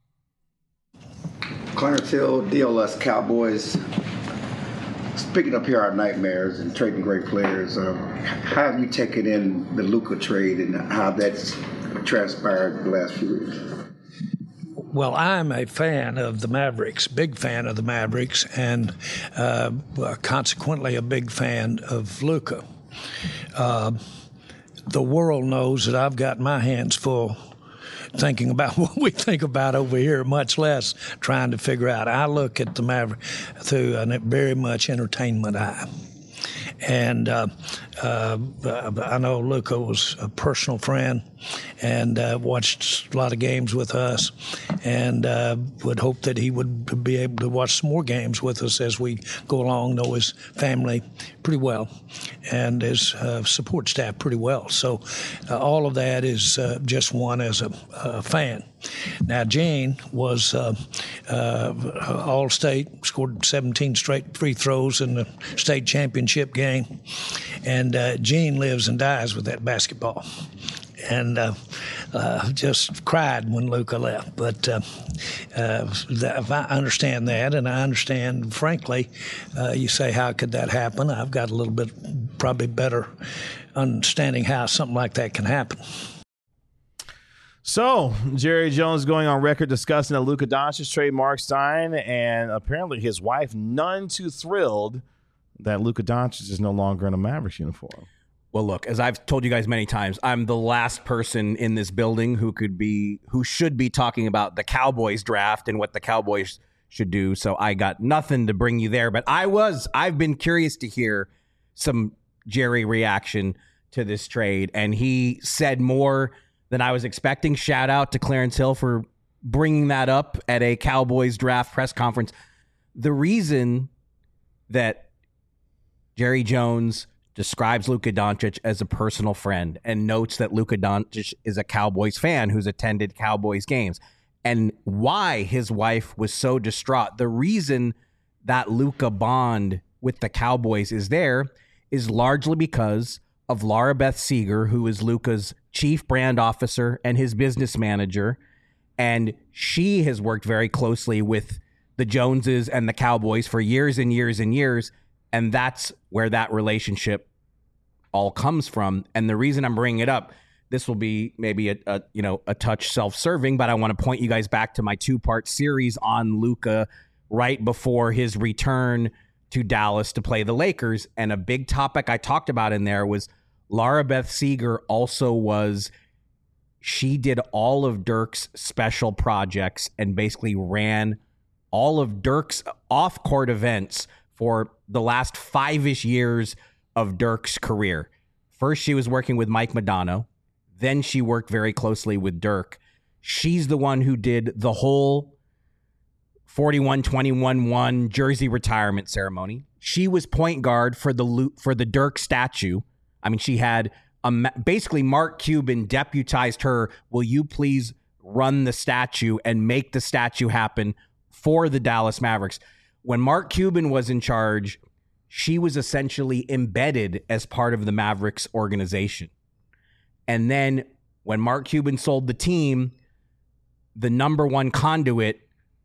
Clarence Hill, D L S Cowboys. Picking up here our nightmares and trading great players. Um, how have you taken in the Luka trade and how that's transpired the last few weeks? Well, I'm a fan of the Mavericks, big fan of the Mavericks, and uh, consequently a big fan of Luka. Uh, the world knows that I've got my hands full thinking about what we think about over here, much less trying to figure out. I look at the Maverick through a very much entertainment eye. And uh, uh, I know Luka was a personal friend and uh, watched a lot of games with us, and uh, would hope that he would be able to watch some more games with us as we go along, know his family pretty well and his uh, support staff pretty well. So uh, all of that is uh, just one as a, a fan. Now, Gene was uh, uh, All-State, scored seventeen straight free throws in the state championship game, and uh, Gene lives and dies with that basketball. And uh, uh, just cried when Luka left. But uh, uh, that, I understand that, and I understand, frankly, uh, you say, how could that happen? I've got a little bit probably better understanding how something like that can happen. So, Jerry Jones going on record discussing the Luka Doncic trade Mark Stein, and apparently his wife none too thrilled that Luka Doncic is no longer in a Mavericks uniform. Well, look, as I've told you guys many times, I'm the last person in this building who could be, who should be talking about the Cowboys draft and what the Cowboys should do. So I got nothing to bring you there. But I was, I've been curious to hear some Jerry reaction to this trade. And he said more than I was expecting. Shout out to Clarence Hill for bringing that up at a Cowboys draft press conference. The reason that Jerry Jones describes Luka Doncic as a personal friend and notes that Luka Doncic is a Cowboys fan who's attended Cowboys games, and why his wife was so distraught. The reason that Luka bond with the Cowboys is there is largely because of Laura Beth Seeger, who is Luka's chief brand officer and his business manager. And she has worked very closely with the Joneses and the Cowboys for years and years and years. And that's where that relationship all comes from. And the reason I'm bringing it up, this will be maybe a, a you know a touch self-serving, but I want to point you guys back to my two-part series on Luka right before his return to Dallas to play the Lakers. And a big topic I talked about in there was Laura Beth Seeger also was, she did all of Dirk's special projects and basically ran all of Dirk's off-court events for the last five-ish years of Dirk's career. First, she was working with Mike Modano. Then she worked very closely with Dirk. She's the one who did the whole forty-one twenty-one one jersey retirement ceremony. She was point guard for the for the Dirk statue. I mean, she had a, basically Mark Cuban deputized her, will you please run the statue and make the statue happen for the Dallas Mavericks. When Mark Cuban was in charge, she was essentially embedded as part of the Mavericks organization. And then when Mark Cuban sold the team, the number one conduit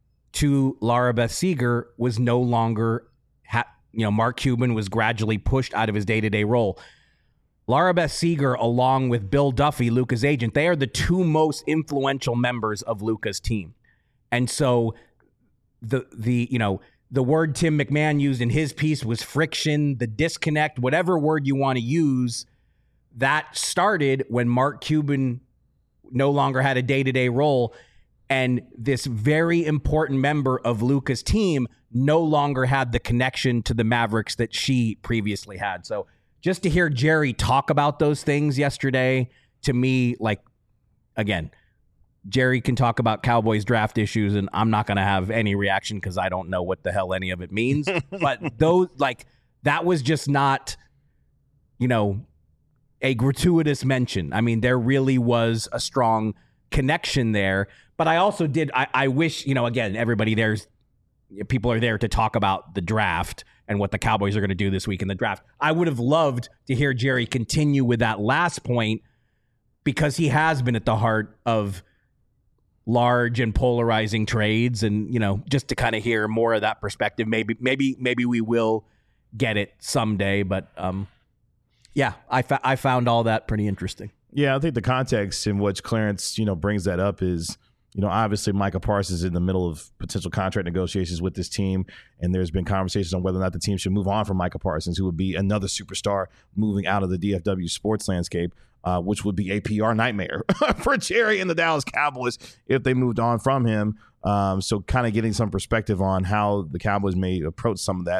to Laura Beth Seeger was no longer, ha- you know, Mark Cuban was gradually pushed out of his day-to-day role. Laura Beth Seeger, along with Bill Duffy, Luka's agent, they are the two most influential members of Luka's team. And so the, the you know, the word Tim McMahon used in his piece was friction, the disconnect, whatever word you want to use, that started when Mark Cuban no longer had a day-to-day role, and this very important member of Luka's team no longer had the connection to the Mavericks that she previously had. So just to hear Jerry talk about those things yesterday, to me, like, again, Jerry can talk about Cowboys draft issues, and I'm not going to have any reaction because I don't know what the hell any of it means. But those, like, that was just not, you know, a gratuitous mention. I mean, there really was a strong connection there. But I also did, I, I wish, you know, again, everybody there's, people are there to talk about the draft and what the Cowboys are going to do this week in the draft. I would have loved to hear Jerry continue with that last point, because he has been at the heart of large and polarizing trades, and, you know, just to kind of hear more of that perspective. Maybe, maybe, maybe we will get it someday. But um, yeah, I fa- I found all that pretty interesting. Yeah, I think the context in which Clarence, you know, brings that up is, you know, obviously Micah Parsons is in the middle of potential contract negotiations with this team, and there's been conversations on whether or not the team should move on from Micah Parsons, who would be another superstar moving out of the D F W sports landscape, uh, which would be a P R nightmare for Jerry and the Dallas Cowboys if they moved on from him. Um, so kind of getting some perspective on how the Cowboys may approach some of that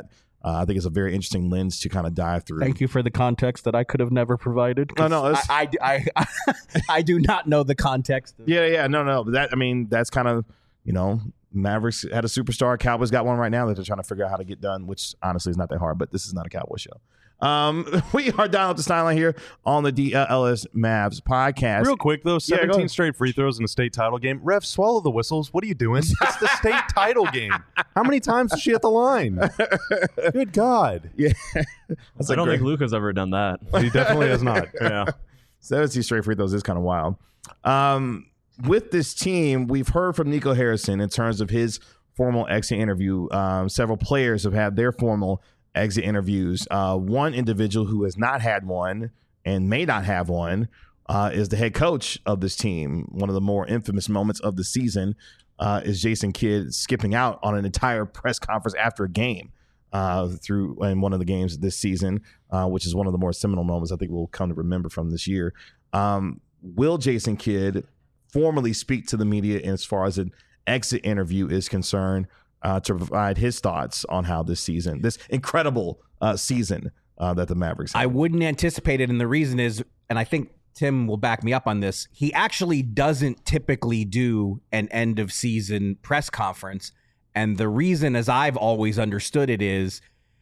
Uh, I think it's a very interesting lens to kind of dive through. Thank you for the context that I could have never provided. No, no, it's- I, I, I, I do not know the context. Of- Yeah, yeah, no, no. But that, I mean, that's kind of, you know, Mavericks had a superstar. Cowboys got one right now that they're trying to figure out how to get done, which honestly is not that hard, but this is not a Cowboy show. Um, we are dialing up the sideline here on the D L S Mavs podcast. Real quick, though, Yeah, go seventeen ahead. straight free throws in a state title game. Ref, swallow the whistles. What are you doing? It's the state title game. How many times is she at the line? Good God. Yeah. That's I a don't great, think Luka's ever done that. He definitely has not. Yeah. seventeen straight free throws is kind of wild. Um, with this team, we've heard from Nico Harrison in terms of his formal exit interview. Um, several players have had their formal exit interviews. Uh, one individual who has not had one and may not have one uh, is the head coach of this team. One of the more infamous moments of the season uh, is Jason Kidd skipping out on an entire press conference after a game uh, through in one of the games this season, uh, which is one of the more seminal moments I think we'll come to remember from this year. Um, will Jason Kidd formally speak to the media as far as an exit interview is concerned uh, to provide his thoughts on how this season, this incredible uh, season uh, that the Mavericks have? I wouldn't anticipate it, and the reason is, and I think Tim will back me up on this, he actually doesn't typically do an end of season press conference. And the reason, as I've always understood it, is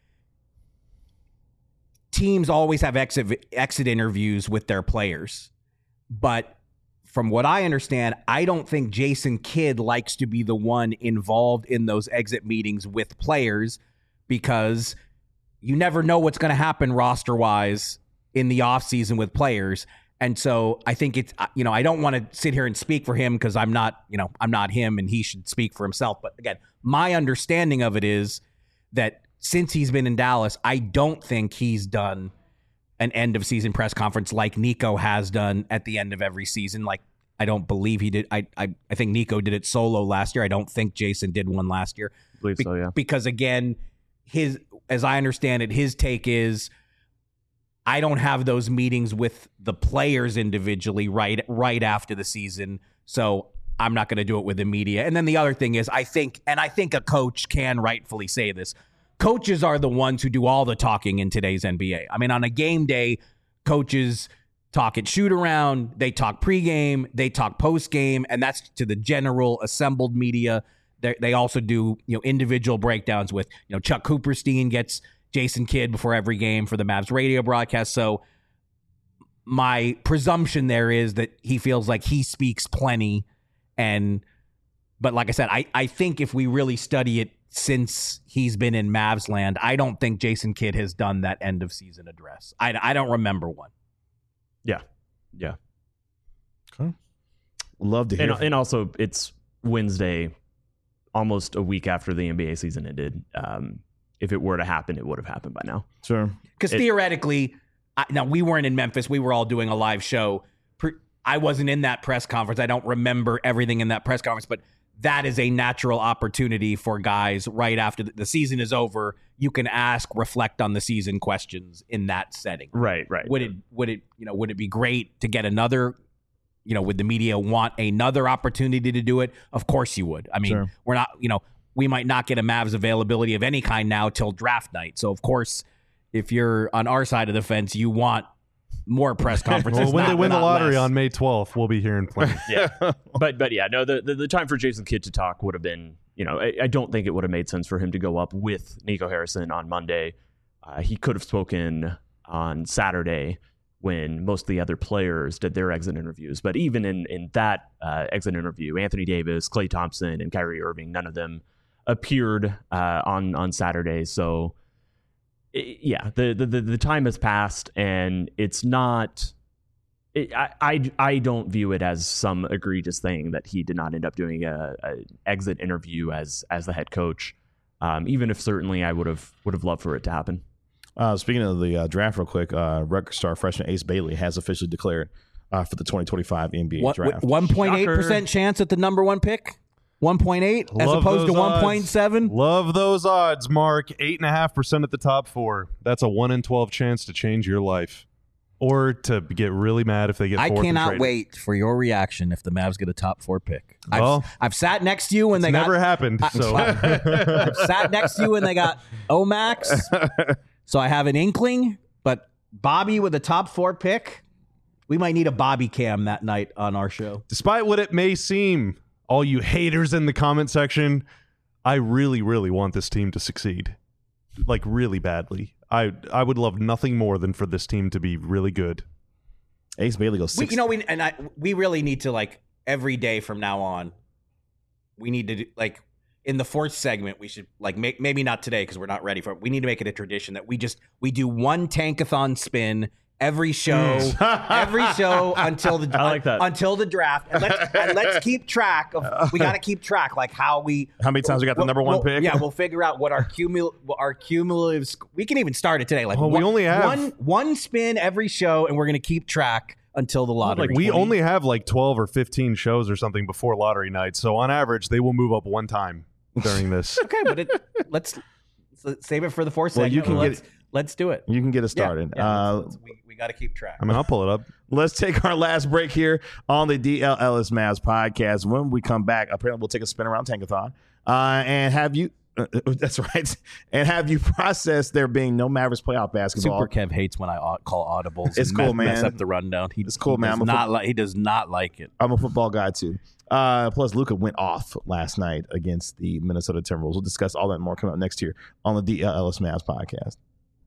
teams always have exit exit interviews with their players. But from what I understand, I don't think Jason Kidd likes to be the one involved in those exit meetings with players, because you never know what's going to happen roster-wise in the offseason with players. And so I think it's, you know, I don't want to sit here and speak for him because I'm not, you know, I'm not him and he should speak for himself. But again, my understanding of it is that since he's been in Dallas, I don't think he's done an end of season press conference like Nico has done at the end of every season. Like, I don't believe he did. I, I, I think Nico did it solo last year. I don't think Jason did one last year. I believe Be- so, yeah. Because again, his, as I understand it, his take is, I don't have those meetings with the players individually right right after the season, so I'm not going to do it with the media. And then the other thing is, I think, and I think a coach can rightfully say this, coaches are the ones who do all the talking in today's N B A. I mean, on a game day, coaches talk at shoot around, they talk pregame, they talk postgame, and that's to the general assembled media. They they also do, you know, individual breakdowns with, you know, Chuck Cooperstein gets Jason Kidd before every game for the Mavs radio broadcast. So my presumption there is that he feels like he speaks plenty. And, but like I said, I, I think if we really study it since he's been in Mavs land, I don't think Jason Kidd has done that end of season address. I, I don't remember one. Yeah. Yeah. Love to hear. And, and also, it's Wednesday, almost a week after the N B A season ended. Um, if it were to happen, it would have happened by now. Sure. Because theoretically, I, now we weren't in Memphis. We were all doing a live show. Pre, I wasn't in that press conference. I don't remember everything in that press conference, but that is a natural opportunity for guys right after the, the season is over. You can ask, reflect on the season questions in that setting. Right, right. Would it, would it, you know, would it be great to get another, you know, would the media want another opportunity to do it? Of course you would. I mean, Sure. we're not, you know, we might not get a Mavs availability of any kind now till draft night. So of course, if you're on our side of the fence, you want more press conferences. Well, when not- they win the not lottery less. on May twelfth, we'll be hearing plenty. Yeah. but but yeah, no, the, the the time for Jason Kidd to talk would have been, you know, I, I don't think it would have made sense for him to go up with Nico Harrison on Monday. Uh, he could have spoken on Saturday when most of the other players did their exit interviews. But even in in that uh, exit interview, Anthony Davis, Klay Thompson, and Kyrie Irving, none of them appeared uh, on on Saturday. So it, yeah, the, the the time has passed, and it's not. It, I, I I don't view it as some egregious thing that he did not end up doing a, a exit interview as as the head coach. Um, even if certainly I would have would have loved for it to happen. Uh, speaking of the uh, draft, real quick, uh, record star freshman Ace Bailey has officially declared uh, for the twenty twenty-five N B A What, draft. one point eight percent chance at the number one pick? one point eight as Love opposed to those one point odds. seven? Love those odds, Mark. Eight and a half percent at the top four. That's a one in twelve chance to change your life. or to get really mad if they get I fourth and cannot traded. wait for your reaction if the Mavs get a top four pick. I've, Well, I've sat next to you when they Never got, happened. I- So I've sat next to you when they got Omax, so I have an inkling. But Bobby with a top four pick, we might need a Bobby cam that night on our show. despite what it may seem, all you haters in the comment section, I really, really want this team to succeed. Like, really badly. I I would love nothing more than for this team to be really good. Ace Bailey goes We, six. you know, we and I, we really need to, like, every day from now on, we need to do, like, in the fourth segment, we should, like, make, maybe not today because we're not ready for it. We need to make it a tradition that we just we do one tankathon spin every show, every show until the I like that. until the draft, and let's and let's keep track of. We got to keep track, like how we How many times we got the we'll- number one we'll- pick? Yeah, we'll figure out what our cumul what our cumulative. sc- We can even start it today. Like Well, we one, only have- one one spin every show, and we're gonna keep track until the lottery. Like, we only have like twelve or fifteen shows or something before lottery night. So on average, they will move up one time during this. okay, but it, let's, let's save it for the fourth Well, segment. you can let's, get let's do it. You can get us Yeah, started. yeah, uh, let's- let's- we we got to keep track. I mean, I'll pull it up. Let's take our last break here on the D L Ellis Mavs podcast. When we come back, apparently we'll take a spin around Tankathon uh, and have you. Uh, that's right, and have you process there being no Mavericks playoff basketball. Super Kev hates when I au- call audibles. It's and cool, mess, mess man. up the rundown. He, It's cool, he man. Does I'm a not fo- li- he does not like it. I'm a football guy too. Uh, plus, Luka went off last night against the Minnesota Timberwolves. We'll discuss all that and more coming up next year on the D L Ellis Mavs podcast.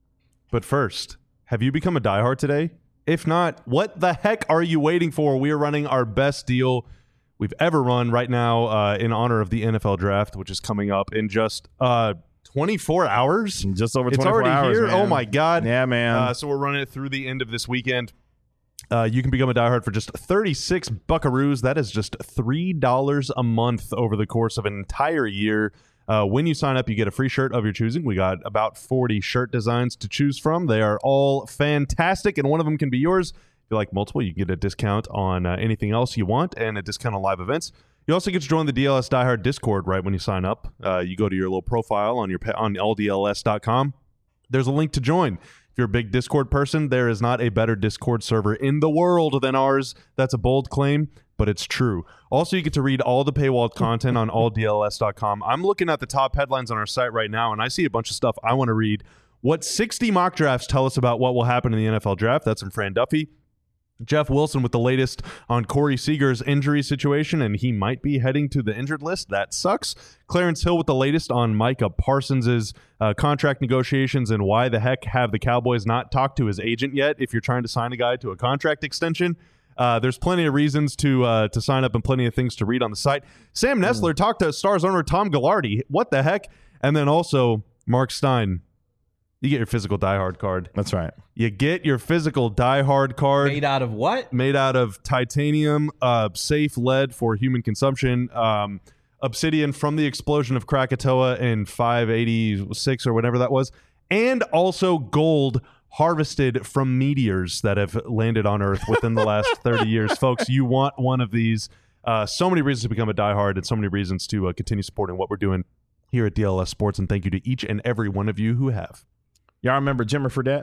But first, have you become a diehard today? If not, what the heck are you waiting for? We are running our best deal we've ever run right now uh, in honor of the N F L draft, which is coming up in just uh, twenty-four hours. Just over It's twenty-four already hours. here. man. Oh my god! Yeah, man. Uh, so we're running it through the end of this weekend. Uh, you can become a diehard for just thirty-six buckaroos. That is just three dollars a month over the course of an entire year. Uh, when you sign up, you get a free shirt of your choosing. We got about forty shirt designs to choose from. They are all fantastic, and one of them can be yours. If you like multiple, you can get a discount on uh, anything else you want and a discount on live events. You also get to join the D L S Diehard Discord right when you sign up. Uh, you go to your little profile on your pa- on all D L S dot com. There's a link to join. If you're a big Discord person, there is not a better Discord server in the world than ours. That's a bold claim, but it's true. Also, you get to read all the paywalled content on all D L S dot com. I'm looking at the top headlines on our site right now, and I see a bunch of stuff I want to read. What sixty mock drafts tell us about what will happen in the N F L draft? That's from Fran Duffy. Jeff Wilson with the latest on Corey Seager's injury situation, and he might be heading to the injured list. That sucks. Clarence Hill with the latest on Micah Parsons' uh, contract negotiations and why the heck have the Cowboys not talked to his agent yet if you're trying to sign a guy to a contract extension. Uh, there's plenty of reasons to uh, to sign up and plenty of things to read on the site. Sam Nessler talked to Stars owner Tom Gallardi. What the heck? And then also Mark Stein. You get your physical diehard card. That's right. You get your physical diehard card Made out of what? made out of titanium, uh, safe lead for human consumption, um, obsidian from the explosion of Krakatoa in five eighty-six or whatever that was, and also gold harvested from meteors that have landed on Earth within the last thirty years. Folks, you want one of these. Uh, so many reasons to become a diehard and so many reasons to uh, continue supporting what we're doing here at D L S Sports, and thank you to each and every one of you who have. Y'all remember Jimmer Fredette?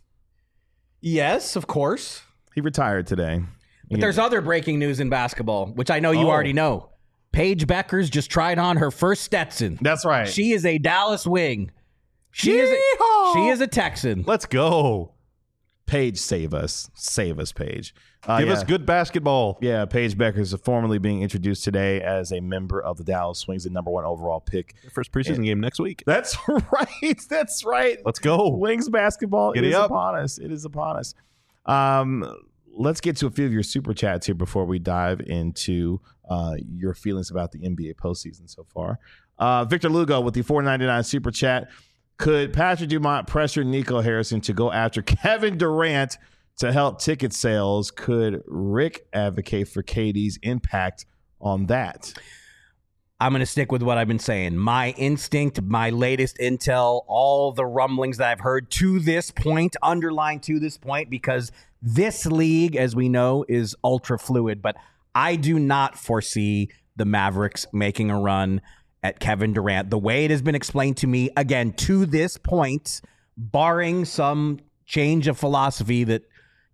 Yes, of course. He retired today. But there's other breaking news in basketball, which I know you Oh. already know. Paige Beckers just tried on her first Stetson. That's right. She is a Dallas wing. She is a, Yeehaw! she is a Texan. Let's go. Paige, save us. Save us, Paige. Uh, Give yeah. us good basketball. Yeah, Paige Becker is formally being introduced today as a member of the Dallas Wings, the number one overall pick. First preseason game next week. That's right. That's right. Let's go. Wings basketball Giddy is up. upon us. It is upon us. Um, let's get to a few of your super chats here before we dive into uh, your feelings about the N B A postseason so far. Uh, Victor Lugo with the four ninety-nine super chat. Could Patrick Dumont pressure Nico Harrison to go after Kevin Durant to help ticket sales? Could Rick advocate for K D's impact on that? I'm going to stick with what I've been saying. My instinct, my latest intel, all the rumblings that I've heard to this point, underlined to this point, because this league, as we know, is ultra fluid. But I do not foresee the Mavericks making a run at Kevin Durant. The way it has been explained to me, again, to this point, barring some change of philosophy that,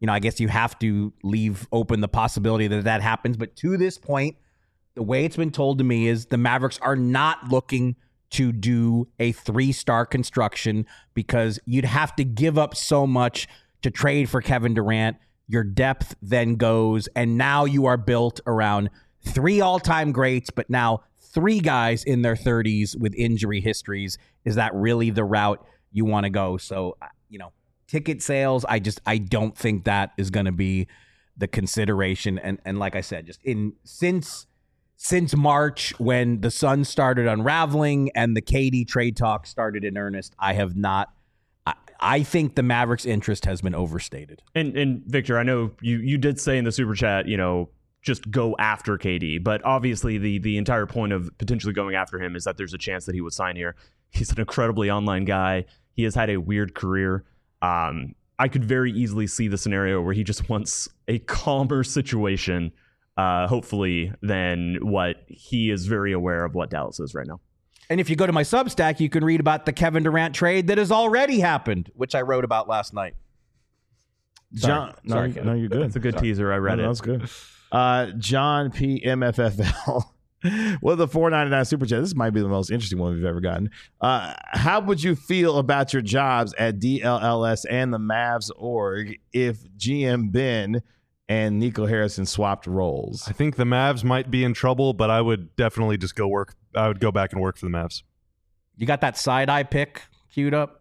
you know, I guess you have to leave open the possibility that that happens. But to this point, the way it's been told to me is the Mavericks are not looking to do a three-star construction because you'd have to give up so much to trade for Kevin Durant. Your depth then goes, and now you are built around three all-time greats, but now three guys in their thirties with injury histories. Is that really the route you want to go? So, you know, ticket sales, I just, I don't think that is going to be the consideration. And and like I said, just in since since March when the Suns started unraveling and the K D trade talk started in earnest, I have not. I, I think the Mavericks' interest has been overstated. And and Victor, I know you you did say in the super chat, you know, just go after K D, but obviously the the entire point of potentially going after him is that there's a chance that he would sign here. He's an incredibly online guy. He has had a weird career. Um, I could very easily see the scenario where he just wants a calmer situation, uh, hopefully, than what he is very aware of what Dallas is right now. And if you go to my Substack, you can read about the Kevin Durant trade that has already happened, which I wrote about last night. John, Sorry. no, Sorry, you- Kevin. no, you're good. It's a good Sorry. teaser. I read No, it. That's good. Uh, John P M F F L with the four ninety-nine super chat. This might be the most interesting one we've ever gotten. Uh, how would you feel about your jobs at D L L S and the Mavs org if G M Ben and Nico Harrison swapped roles? I think the Mavs might be in trouble, but I would definitely just go work. I would go back and work for the Mavs. You got that side-eye pick queued up?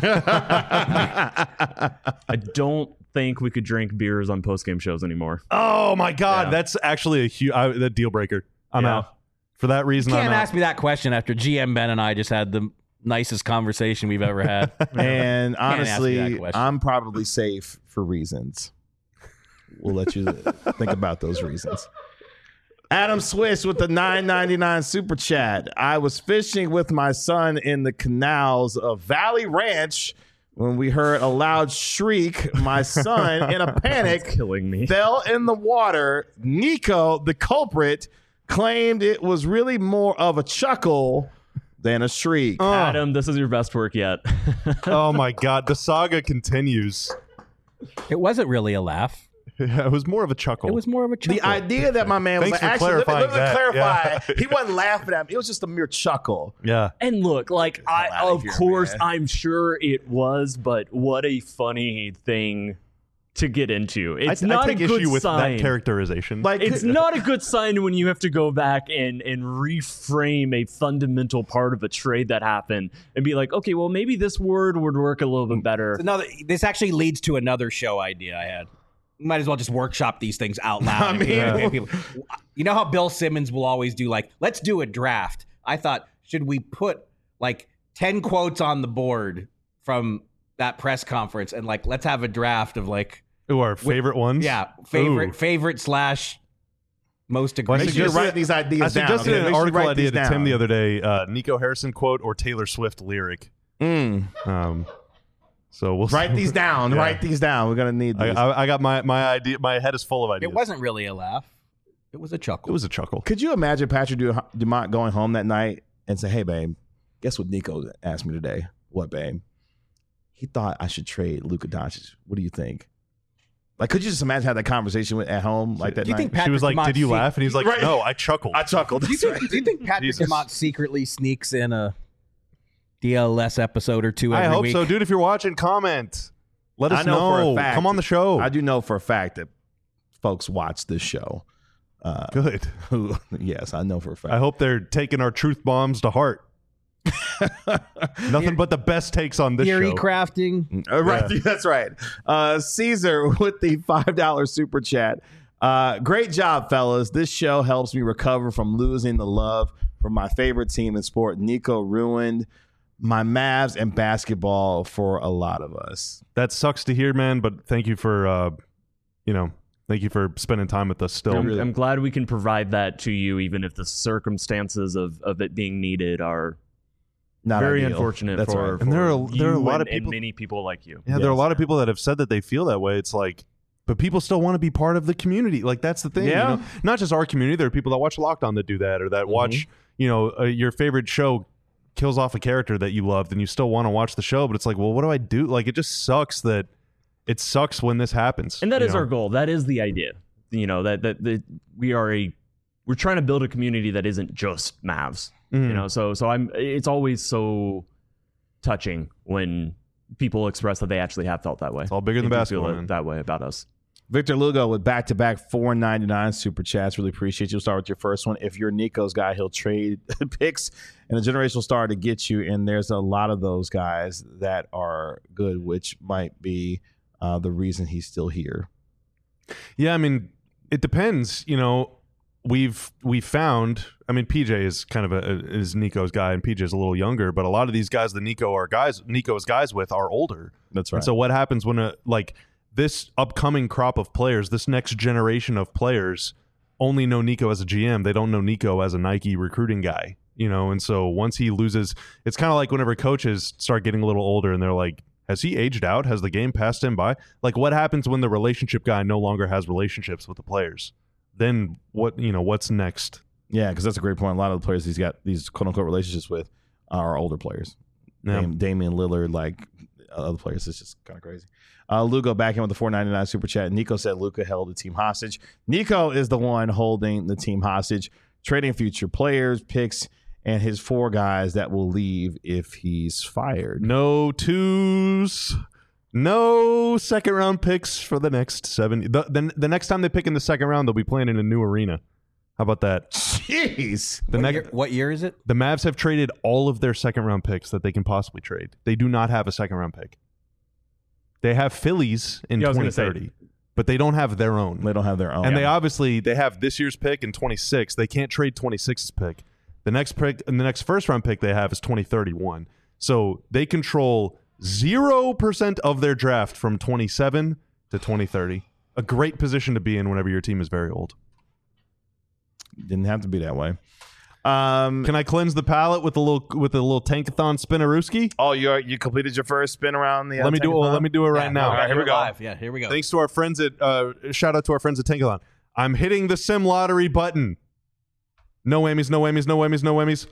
I don't think we could drink beers on post-game shows anymore. Oh my God, Yeah. that's actually a huge a deal breaker. I'm Yeah. out. For that reason, You I'm can't out. ask me that question after G M Ben and I just had the nicest conversation we've ever had. And Can't ask me that honestly, question. I'm probably safe for reasons. We'll let you think about those reasons. Adam Swish with the nine ninety-nine super chat. I was fishing with my son in the canals of Valley Ranch when we heard a loud shriek. My son, in a panic, Killing me. fell in the water. Nico, the culprit, claimed it was really more of a chuckle than a shriek. Adam, this is your best work yet. Oh my God, the saga continues. It wasn't really a laugh. It was more of a chuckle. It was more of a chuckle. The idea that my man was Thanks like, for actually, let me, clarifying let me that. clarify. Yeah. He wasn't laughing at me. It was just a mere chuckle. yeah. And look, like, I, outta of here, course, man. I'm sure it was, but what a funny thing to get into. It's I, not I take a good issue with sign. that characterization. Like, It's not a good sign when you have to go back and, and reframe a fundamental part of a trade that happened and be like, okay, well, maybe this word would work a little bit better. Another, this actually leads to another show idea I had. We might as well just workshop these things out loud. I mean- Yeah. People- you know how Bill Simmons will always do, like, let's do a draft. I thought, should we put like ten quotes on the board from that press conference and like, let's have a draft of like, Ooh, our favorite ones? yeah, favorite, Ooh. favorite slash most Well, I Make egregious. sure you suggested- write these ideas I down. suggested okay? an Make sure you article write idea these to Tim down. the other day, uh, Nico Harrison quote or Taylor Swift lyric. Mm. Um, so we'll Write these down. Yeah. Write these down. We're gonna need I, these. I, I got my, my idea. My head is full of ideas. It wasn't really a laugh. It was a chuckle. It was a chuckle. Could you imagine Patrick Du- Dumont going home that night and say, "Hey, babe, guess what Nico asked me today? What, babe? He thought I should trade Luka Doncic. What do you think?" Like, could you just imagine having that conversation with, at home like that Do you night? think She Patrick was like, Dumont "Did you se- laugh?" And he's like, Right. "No, I chuckled." I chuckled. Do you think, do you think Patrick Jesus. Dumont secretly sneaks in a D L S episode or two every I hope week? so, dude. If you're watching, comment. Let us I know for a fact. Come on the show. I do know for a fact that folks watch this show. Uh, Good. who, yes, I know for a fact. I hope they're taking our truth bombs to heart. Nothing but the best takes on this Theory show. crafting. Uh, right, that's right. Uh, Caesar with the five dollar super chat. Uh, great job, fellas. This show helps me recover from losing the love for my favorite team in sport. Nico ruined my Mavs and basketball for a lot of us. That sucks to hear, man. But thank you for, uh, you know, thank you for spending time with us. Still, I'm, I'm glad we can provide that to you, even if the circumstances of, of it being needed are Not very ideal. unfortunate That's for, right. And there are- for there are a you lot and, of people- and many people like you. yeah, there are a Yes. lot of people that have said that they feel that way. It's like, but people still want to be part of the community. Like that's the thing. Yeah. You know? Not just our community. There are people that watch Locked On that do that, or that watch, you know, uh, your favorite show kills off a character that you loved, and you still want to watch the show. But it's like, well, what do I do? Like, it just sucks that it sucks when this happens. And that you is know? our goal. That is the idea. You know, that, that that we are a we're trying to build a community that isn't just Mavs. Mhm. You know, so so I'm it's always so touching when people express that they actually have felt that way. It's all bigger They than do basketball, feel man. that way about us. Victor Lugo with back-to-back four ninety-nine super chats. Really appreciate you. We'll start with your first one. If you're Nico's guy, he'll trade picks and a generational star to get you. And there's a lot of those guys that are good, which might be uh, the reason he's still here. Yeah, I mean, it depends. You know, we've we found. I mean, P J is kind of a is Nico's guy, and P J is a little younger. But a lot of these guys that Nico are guys, Nico's guys with, are older. That's right. And so what happens when a like this upcoming crop of players, this next generation of players, only know Nico as a G M. They don't know Nico as a Nike recruiting guy. You know, and so once he loses, it's kind of like whenever coaches start getting a little older, and they're like, has he aged out? Has the game passed him by? Like, what happens when the relationship guy no longer has relationships with the players? Then what, you know, what's next? Yeah, because that's a great point. A lot of the players he's got these quote-unquote relationships with are older players. Yeah. Dam- Damian Lillard, like other players. It's just kind of crazy. Uh, Lugo back in with the four ninety-nine super chat. Nico said Luka held the team hostage. Nico is the one holding the team hostage, trading future players, picks, and his four guys that will leave if he's fired. No twos, no second round picks for the next seven. The, the, the next time they pick in the second round, they'll be playing in a new arena. How about that? Jeez. The What, next, year, what year is it? the Mavs have traded all of their second round picks that they can possibly trade. They do not have a second round pick. They have Phillies in Yeah, I was twenty gonna say. thirty, but they don't have their own. They don't have their own. And they obviously they have this year's pick in twenty-six. They can't trade twenty-six's pick. The next pick and the next first round pick they have is twenty thirty-one. So they control zero percent of their draft from twenty-seven to twenty thirty. A great position to be in whenever your team is very old. Didn't have to be that way. Um, Can I cleanse the palate with a little with a little tankathon spinnerooski? oh, you you completed your first spin around the. Uh, Let me do it. tankathon? Let me do it right Yeah, now. all right, here we go. Live. Yeah, here we go. Thanks to our friends at uh, shout out to our friends at Tankathon. I'm hitting the sim lottery button. No whammies, no whammies, no whammies, no whammies.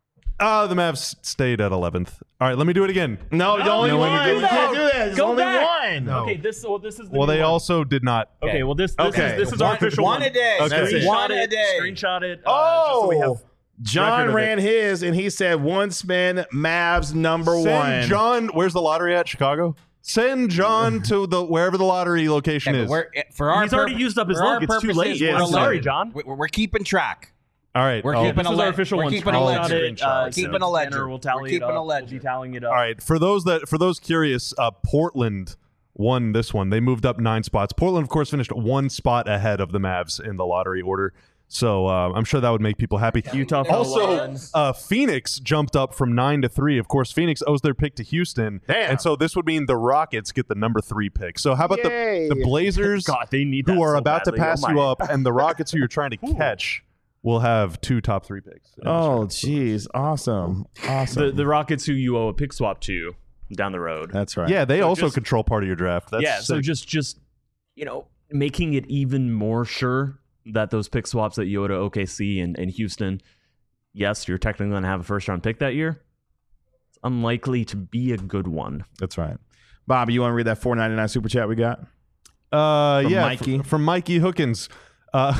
Ah, the Mavs stayed at eleventh. All right, let me do it again. No, you only no, one. let me do You that. can't do that. There's Go only back. one. No. Okay, this well, this is the Well, new they one. also did not. Okay, well this this Okay. is this is our One- official one a day. Okay. Screenshot One a it, day. Screenshot it. Uh, Oh, just so we have John record of ran it. his, and he said one spin, Mavs number Send one. John. Where's the lottery at? Chicago. Send John to the wherever the lottery location Yeah, is. but we're, for our He's already purpo- used up his for our luck. It's too purposes, late. Yeah, we're I'm sorry, eleven. John. We're, we're keeping track. All right. We're oh, keeping This a is our le- official we're one. keeping a Screenshot ledger. it, uh, We're keeping so a ledger. Tanner will tally We're it keeping up. a We'll ledger. be tallying it up. All right. For those that for those curious, uh, Portland won this one. They moved up nine spots. Portland, of course, finished one spot ahead of the Mavs in the lottery order. So uh, I'm sure that would make people happy. Utah fell Also, one. uh, Phoenix jumped up from nine to three. Of course, Phoenix owes their pick to Houston, Damn. and so this would mean the Rockets get the number three pick. So how about Yay. the, the Blazers, God, they need who that are so about badly. to pass Oh you my. up, and the Rockets, who you're trying to catch, will have two top three picks. Oh, jeez. Awesome. Awesome. The the Rockets who you owe a pick swap to down the road. That's right. yeah, they So also just- control part of your draft. That's yeah, so sick. just just you know making it even more sure that those pick swaps that you owe to O K C and, and Houston, yes, you're technically going to have a first round pick that year. It's unlikely to be a good one. That's right. Bobby, you want to read that four ninety-nine super chat we got? Uh, From yeah, Mikey. fr- from Mikey Hookins. Uh,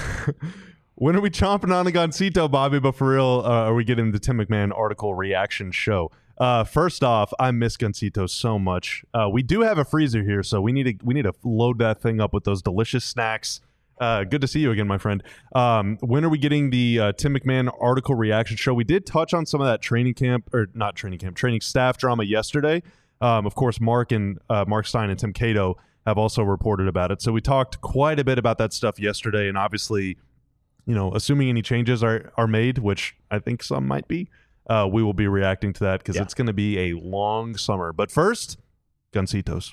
when are we chomping on a Goncito, Bobby? But for real, uh, are we getting the Tim McMahon article reaction show? Uh, first off, I miss Goncito so much. Uh, we do have a freezer here, so we need to we need to load that thing up with those delicious snacks. Uh, good to see you again, my friend. Um, when are we getting the uh, Tim McMahon article reaction show? We did touch on some of that training camp, or not training camp, training staff drama yesterday. Um, of course, Mark and uh, Mark Stein and Tim Cato have also reported about it. So we talked quite a bit about that stuff yesterday, and obviously, you know, assuming any changes are are made, which I think some might be, uh, we will be reacting to that because Yeah. it's going to be a long summer. But first, Goncitos.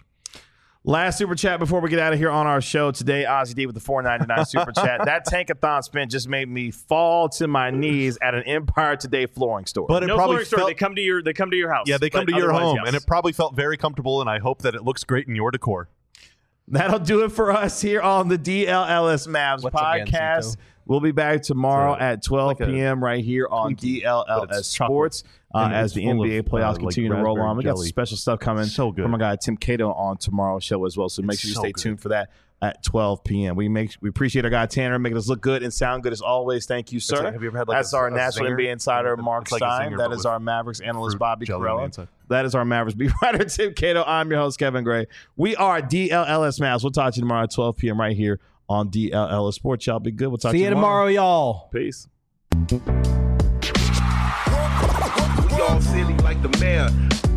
Last super chat before we get out of here on our show today. Ozzy D with the four ninety-nine super chat. That tankathon spin just made me fall to my knees at an Empire Today flooring store. But it No probably flooring store. felt, They come to your they come to your house. yeah, they come But to your otherwise, home, yes. and it probably felt very comfortable. And I hope that it looks great in your decor. That'll do it for us here on the D L L S Mavs What's up, podcast. Gancito? We'll be back tomorrow It's a- at twelve like a p.m. right here on Twinkie, D L L but S it's chocolate. Sports uh, And as it's the full N B A of, playoffs uh, like continue to roll raspberry on. We got some jelly. special stuff coming So good. from our guy Tim Cato on tomorrow's show as well. So make It's sure you so stay good. tuned for that at twelve p.m. We make we appreciate our guy Tanner making us look good and sound good as always. Thank you, sir. like- have you ever had, like, That's a- our a national zinger? N B A insider It's Mark like a Stein. zinger, That but is with our Mavericks analyst fruit Bobby jelly on the Corella. inside. That is our Mavericks beat writer Tim Cato. I'm your host Kevin Gray. We are D L L S Mavs. We'll talk to you tomorrow at twelve p.m. right here on D L L S Sports. Y'all be good. We'll talk See to you tomorrow, y'all. Peace. We all silly like the mayor.